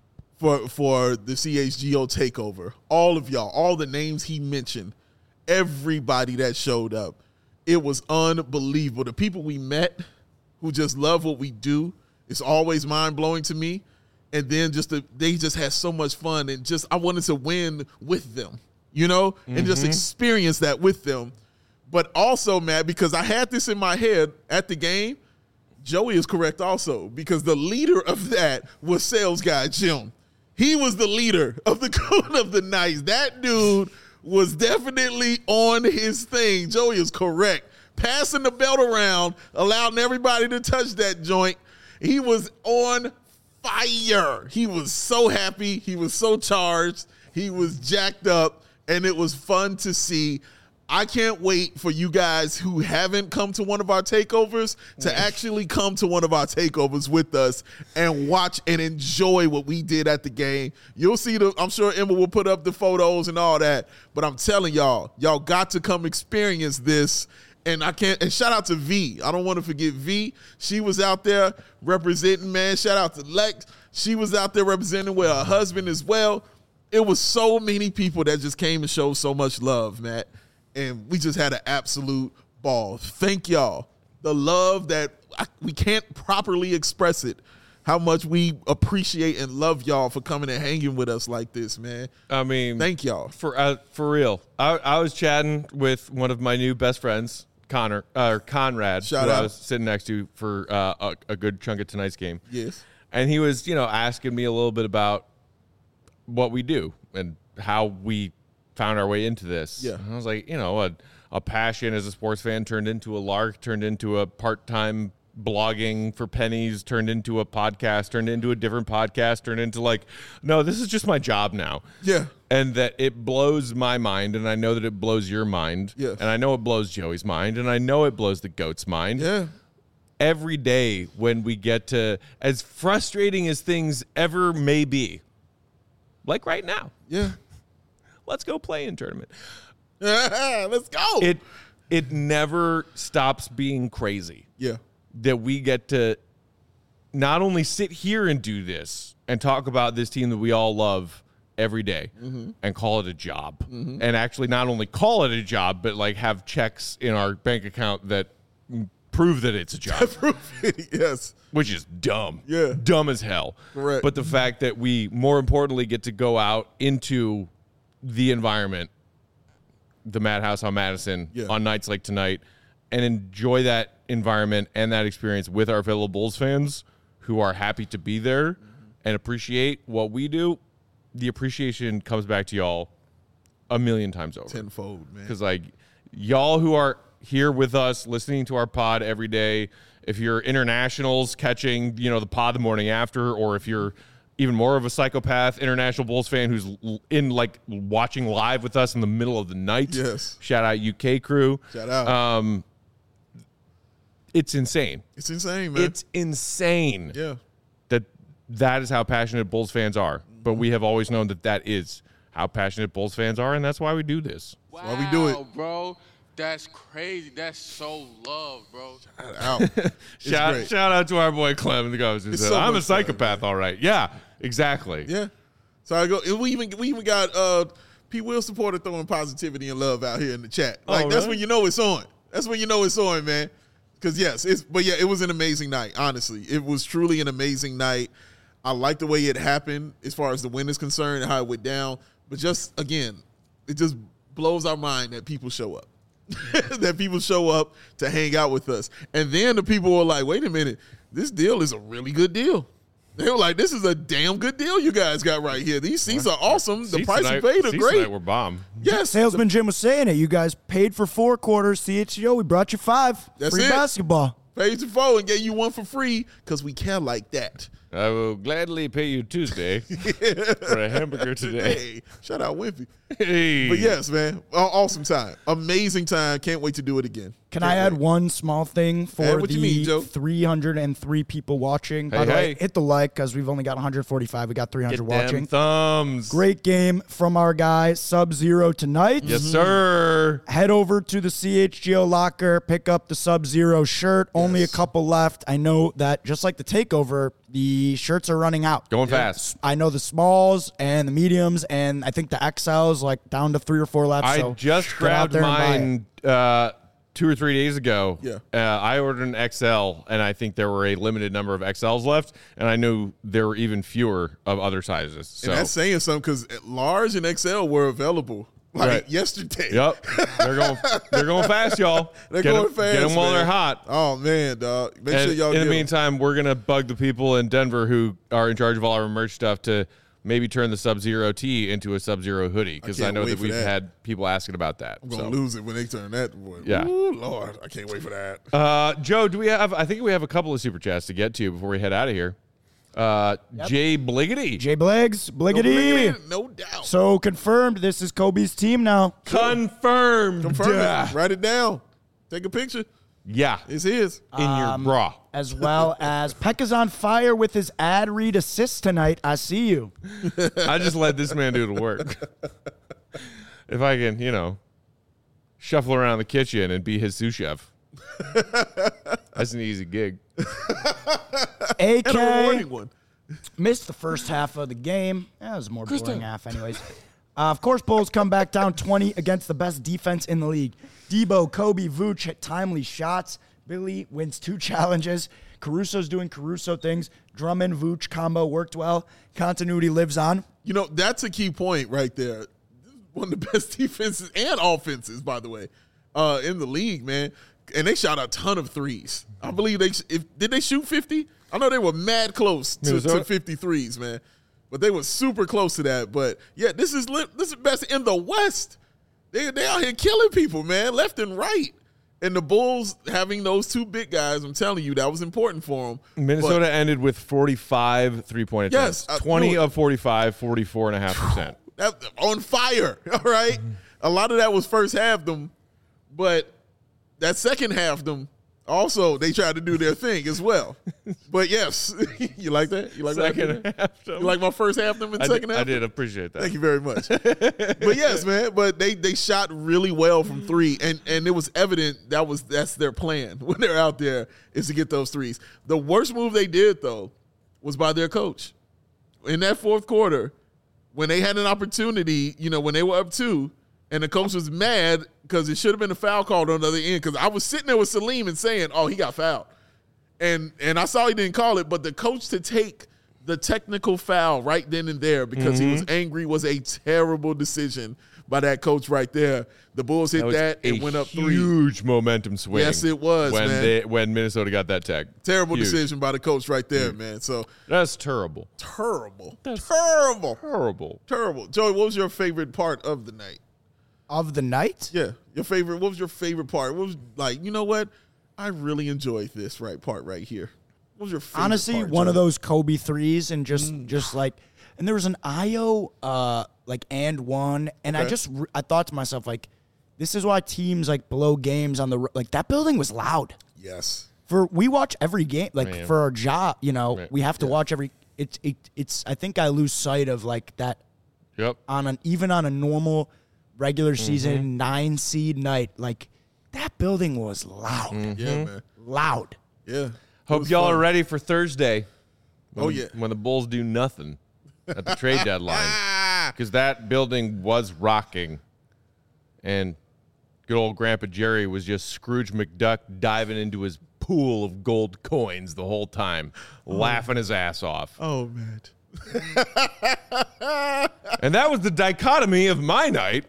for the CHGO takeover, all of y'all, all the names he mentioned, everybody that showed up, it was unbelievable. The people we met who just love what we do, it's always mind-blowing to me. And then they just had so much fun, and just I wanted to win with them, and just experience that with them. But also, Matt, because I had this in my head at the game, Joey is correct also, because the leader of that was sales guy Jim. He was the leader of the Goon of the Nights. That dude was definitely on his thing. Joey is correct. Passing the belt around, allowing everybody to touch that joint. He was on fire. He was so happy. He was so charged. He was jacked up, and it was fun to see. I can't wait for you guys who haven't come to one of our takeovers to actually come to one of our takeovers with us and watch and enjoy what we did at the game. You'll see I'm sure Emma will put up the photos and all that, but I'm telling y'all got to come experience this. And shout out to V. I don't want to forget V. She was out there representing, man. Shout out to Lex. She was out there representing with her husband as well. It was so many people that just came and showed so much love, Matt. And we just had an absolute ball. Thank y'all. The love that we can't properly express it. How much we appreciate and love y'all for coming and hanging with us like this, man. I mean, thank y'all. For real. I was chatting with one of my new best friends, Conrad, Shout who out. I was sitting next to for a good chunk of tonight's game. Yes. And he was, asking me a little bit about what we do and how we found our way into this. Yeah. And I was like, a passion as a sports fan turned into a lark, turned into a part-time blogging for pennies, turned into a podcast, turned into a different podcast, turned into no, this is just my job now. Yeah. And that it blows my mind, and I know that it blows your mind. Yes. And I know it blows Joey's mind, and I know it blows the GOAT's mind. Yeah. Every day when we get to, as frustrating as things ever may be, like right now. Yeah. Let's go play in tournament. Let's go. It never stops being crazy. Yeah. That we get to not only sit here and do this and talk about this team that we all love every day and call it a job. And actually not only call it a job, but have checks in our bank account that prove that it's a job. Yes. Which is dumb. Yeah. Dumb as hell. Correct. But the fact that we, more importantly, get to go out into the environment, the Madhouse on Madison, on nights like tonight, and enjoy that environment and that experience with our fellow Bulls fans who are happy to be there and appreciate what we do, the appreciation comes back to y'all a million times over. Tenfold, man. Because, y'all who are here with us, listening to our pod every day, if you're internationals catching, the pod the morning after, or if you're even more of a psychopath international Bulls fan who's in watching live with us in the middle of the night. Yes. Shout out UK crew. Shout out. It's insane. It's insane, man. It's insane. Yeah. That is how passionate Bulls fans are. But we have always known that is how passionate Bulls fans are, and that's why we do this. Wow, why we do it. Bro. That's crazy. That's so love, bro. Shout out to our boy Clem in the comments who said, I'm a psychopath, all right. Yeah, exactly. Yeah. So I go. We even got P. Will supporter throwing positivity and love out here in the chat. That's when you know it's on. That's when you know it's on, man. Because it was an amazing night. Honestly, it was truly an amazing night. I like the way it happened as far as the win is concerned and how it went down. But just again, it just blows our mind that people show up. That people show up to hang out with us. And then the people were like, wait a minute, this deal is a really good deal. They were like, this is a damn good deal you guys got right here. These seats are awesome. The price you paid are great. We're bomb. Yes. Salesman Jim was saying it. You guys paid for 4 quarters. CHGO, we brought you 5. That's Free it. basketball. Paid you 4 and gave you 1 for free because we care like that. I will gladly pay you Tuesday for a hamburger today. Hey, shout out Wimpy. Hey. But yes, man, awesome time, amazing time. Can't wait to do it again. Can I add one small thing for what the you mean, Joe? 303 people watching? By the way, hit the like because we've only got 145. We got 300 Get watching. them thumbs. Great game from our guy Sub-Zero tonight. Yes, sir. Head over to the CHGO locker, pick up the Sub-Zero shirt. Only a couple left. I know that just like the takeover, the shirts are running out. Going fast. I know the smalls and the mediums, and I think the XLs like down to 3 or 4 left. I so just get out grabbed there and buy it. mine 2 or 3 days ago. Yeah. I ordered an XL, and I think there were a limited number of XLs left, and I knew there were even fewer of other sizes. So And that's saying something because large and XL were available yesterday. Yep. They're going fast, y'all. They're going fast. Get them while man. they're hot. Oh man, dog. Make sure y'all in get the 'em. meantime, we're gonna bug the people in Denver who are in charge of all our merch stuff to maybe turn the Sub-Zero tee into a Sub-Zero hoodie because I can't know wait that for we've that. had people asking about that. I'm gonna lose it when they turn that. Boy. Yeah. Ooh, Lord, I can't wait for that. Joe, do we have? I think we have a couple of super chats to get to before we head out of here. Jay Bliggity. Jay Bliggs, Bliggity. No doubt. So confirmed, this is Kobe's team now. Confirmed. Confirm it. Write it down. Take a picture. Yeah. It's his. In your bra. As well as Peck is on fire with his ad read assist tonight. I see you. I just let this man do the work. If I can, shuffle around the kitchen and be his sous chef. That's an easy gig. And a AK rewarding one. missed the first half of the game. That was a more boring half anyways. Of course, Bulls come back down 20 against the best defense in the league. Debo, Kobe, Vooch hit timely shots. Billy wins 2 challenges. Caruso's doing Caruso things. Drummond, Vooch combo worked well. Continuity lives on. That's a key point right there. This is one of the best defenses and offenses, by the way, in the league, man. And they shot a ton of threes. I believe did they shoot 50? I know they were mad close to 50 threes, man. But they were super close to that. But yeah, this is best in the West. They out here killing people, man, left and right. And the Bulls having those 2 big guys, I'm telling you, that was important for them. Minnesota ended with 45 3-point attempts. Yes, 20 of 45, 44.5%. On fire, all right? A lot of that was first half them, but that second half them, also, they tried to do their thing as well. But yes, you like that? You like Second half. You like my first half them and second half? I did appreciate that. Thank you very much. But yes, man. But they shot really well from 3, and it was evident that's their plan when they're out there is to get those threes. The worst move they did though was by their coach in that fourth quarter when they had an opportunity. When they were up 2. And the coach was mad because it should have been a foul called on the other end. Because I was sitting there with Salim and saying, "Oh, he got fouled," and I saw he didn't call it. But the coach to take the technical foul right then and there because he was angry was a terrible decision by that coach right there. The Bulls hit that. It went up 3. Huge momentum swing. Yes, it was, man. When Minnesota got that tech. Terrible decision by the coach right there, man. So that's terrible. Terrible. Terrible. Joey, what was your favorite part of the night? Of the night? Yeah. What was your favorite part? What was you know what? I really enjoyed this part right here. What was your favorite Honestly, part, one Joey? of those Kobe threes and just like, and there was an IO and one, and Okay. I thought to myself this is why teams blow games on the that building was loud. Yes. We watch every game Man. for our job, we have to Yeah. watch every. It's I think I lose sight of that Yep. even on a normal regular season 9 seed night, that building was loud. Yeah, man. Loud. Yeah. It Hope was y'all fun. are ready for Thursday. Oh, yeah. When the Bulls do nothing at the trade deadline. Because that building was rocking. And good old Grandpa Jerry was just Scrooge McDuck diving into his pool of gold coins the whole time, laughing his ass off. Oh, man. And that was the dichotomy of my night.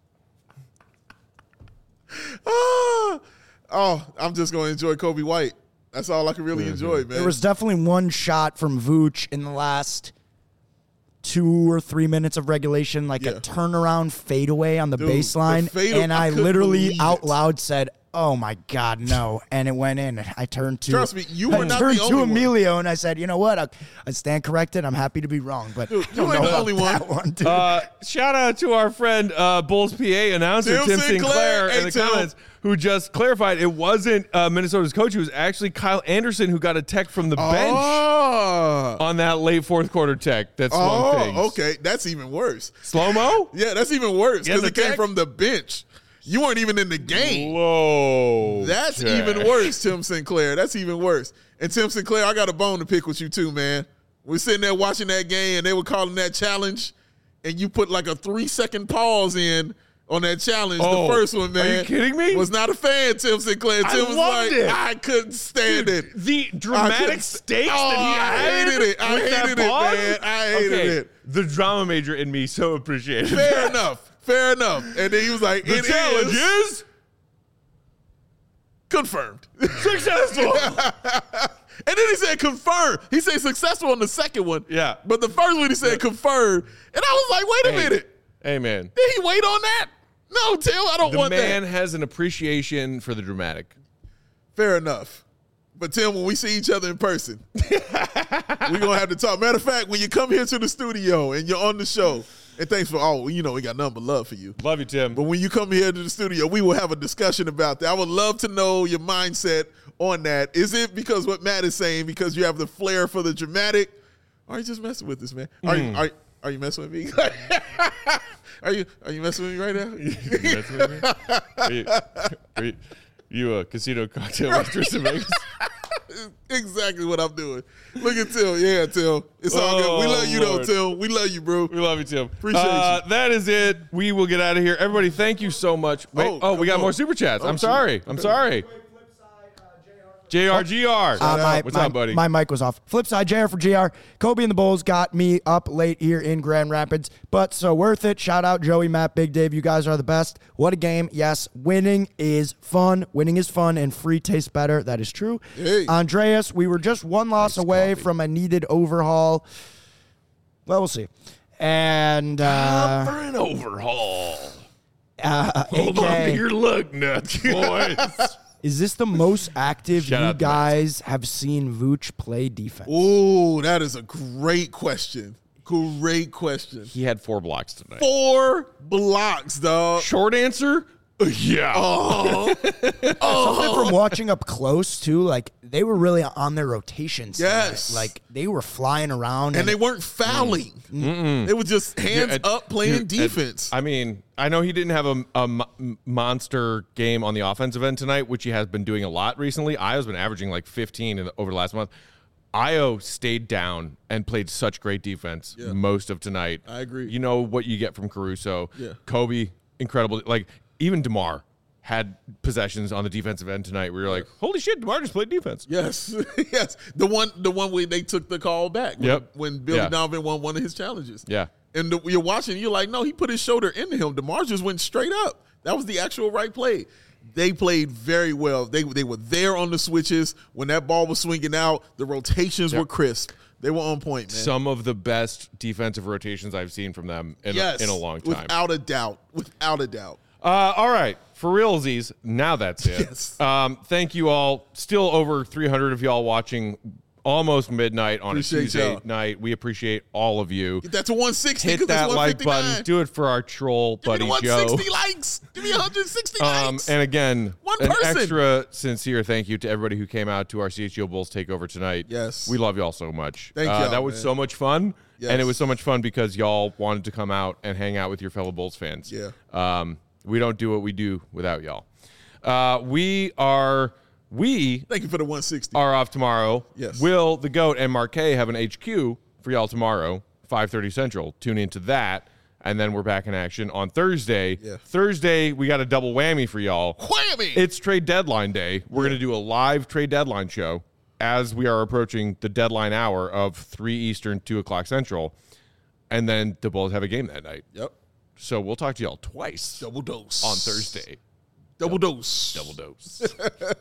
I'm just going to enjoy Kobe White. That's all I can really enjoy, man. There was definitely one shot from Vooch in the last 2 or 3 minutes of regulation, a turnaround fadeaway on the Dude, baseline. the And I couldn't literally believe out it. loud said, oh my God, no. And it went in. I turned to Trust me, you were not the I turned only to one. Emilio and I said, you know what? I stand corrected. I'm happy to be wrong, but Dude, I don't you ain't know the about only that one, dude. Shout out to our friend Bulls PA announcer Tim Sinclair in the comments, who just clarified it wasn't Minnesota's coach. It was actually Kyle Anderson who got a tech from the bench on that late fourth quarter tech. That swung things. Okay. That's even worse. Slow-mo? Yeah, that's even worse because Yeah, it the came tech? from the bench. You weren't even in the game. Whoa. That's Jack. even worse, Tim Sinclair. That's even worse. And Tim Sinclair, I got a bone to pick with you too, man. We're sitting there watching that game, and they were calling that challenge, and you put like a 3-second pause in on that challenge. Oh, the first one, man. are you kidding me? Was not a fan, Tim Sinclair. Tim was loved like, it. I couldn't stand it. The dramatic stakes that he I had. hated it. I with that hated it, pause? man. I hated it. The drama major in me so appreciated Fair that. enough. Fair enough. And then he was like, The it challenge is confirmed. successful. And then he said confirmed. He said successful on the second one. Yeah. But the first one he said confirmed. And I was like, wait a minute. Hey, man. Did he wait on that? No, Tim, I don't The want man that. has an appreciation for the dramatic. Fair enough. But Tim, when we see each other in person, we're going to have to talk. Matter of fact, when you come here to the studio and you're on the show, and thanks for we got nothing but love for you. Love you, Tim. But when you come here to the studio, we will have a discussion about that. I would love to know your mindset on that. Is it because what Matt is saying, because you have the flair for the dramatic? Or are you just messing with us, man? Are you messing with me? Are you messing with me right now? You messing with me? Are you a casino cocktail waitress in Vegas? Exactly what I'm doing. Look at Tim. Yeah, Tim. It's all good. We love you, Lord. though, Tim. We love you, bro. We love you, Tim. Appreciate you. That is it. We will get out of here. Everybody, thank you so much. Wait, we got more super chats. I'm sorry. I'm sorry. JRGR. What's up, buddy? My mic was off. Flip side, JR for GR. Kobe and the Bulls got me up late here in Grand Rapids, but so worth it. Shout out Joey, Matt, Big Dave. You guys are the best. What a game. Yes, winning is fun. Winning is fun, and free tastes better. That is true. Hey. Andreas, we were just one loss away from a needed overhaul. Well, we'll see. And for an overhaul. Hold on to your lug nuts, boys. is this the most active Shout you out to guys have seen Vooch play defense? Ooh, that is a great question. Great question. He had 4 blocks tonight. 4 blocks, dog. Short answer, yeah. Something from watching up close too, like they were really on their rotations. Yes. tonight. Like they were flying around, And they weren't fouling. They were just hands up playing defense. I mean, I know he didn't have a monster game on the offensive end tonight, which he has been doing a lot recently. Io's been averaging like 15 over the last month. Io stayed down and played such great defense most of tonight. I agree. You know what you get from Caruso. Yeah. Kobe, incredible. Like, even DeMar had possessions on the defensive end tonight where you're like, holy shit, DeMar just played defense. Yes, yes. The one where they took the call back. When Billy Donovan won one of his challenges. Yeah. And you're watching, you're like, no, he put his shoulder into him. DeMar just went straight up. That was the actual right play. They played very well. They were there on the switches. When that ball was swinging out, the rotations were crisp. They were on point, man. Some of the best defensive rotations I've seen from them in a long time. Without a doubt. Without a doubt. All right. For realsies, now that's it. Yes. Thank you all. Still over 300 of y'all watching almost midnight on Appreciate a Tuesday y'all. night. We appreciate all of you. Get that to 160. Hit 'cause that it's like 159. button. Do it for our troll Give me buddy the Joe. 160 likes. Give me 160 likes. And again, One an person. extra sincere thank you to everybody who came out to our CHGO Bulls takeover tonight. Yes. We love y'all so much. Thank y'all, that was man. so much fun. Yes. And it was so much fun because y'all wanted to come out and hang out with your fellow Bulls fans. Yeah. We don't do what we do without y'all. We Thank you for the 160. are off tomorrow. Yes. Will, the GOAT, and Marquet have an HQ for y'all tomorrow, 5:30 Central. Tune into that, and then we're back in action on Thursday. Yeah. Thursday, we got a double whammy for y'all. Whammy! It's trade deadline day. We're going to do a live trade deadline show as we are approaching the deadline hour of 3 Eastern, 2 o'clock Central, and then the Bulls have a game that night. Yep. So we'll talk to y'all twice Double dose. on Thursday. Double dose. Double dose.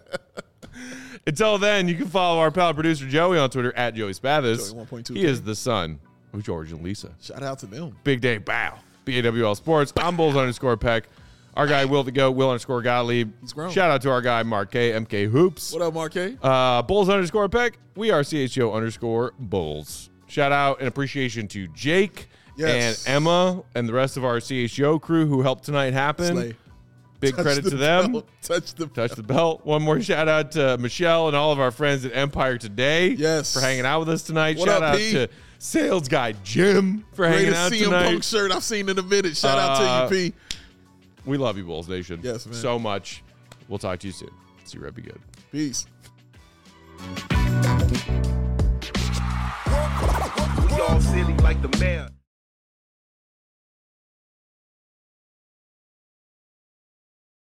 Until then, you can follow our pal producer Joey on Twitter at Joey Spathis. Joey 1.2K. He is the son of George and Lisa. Shout out to them. Big day, bow. BAWL Sports. I'm Bulls _Peck. Our guy, Will the Goat, Will_Gottlieb. He's grown. Shout out to our guy, Mark K, MK Hoops. What up, Mark K? Bulls_Peck. We are CHO_Bulls. Shout out and appreciation to Jake and Emma and the rest of our CHO crew who helped tonight happen. Slay. Big credit to them. Touch the belt. One more shout out to Michelle and all of our friends at Empire Today. Yes. For hanging out with us tonight. What shout up, out P? to Sales Guy Jim for hanging out CM tonight. Punk shirt I've seen in a minute. Shout out to you, P. We love you, Bulls Nation. Yes, man. So much. We'll talk to you soon. See you, Red. Be good. Peace. We all silly like the mayor.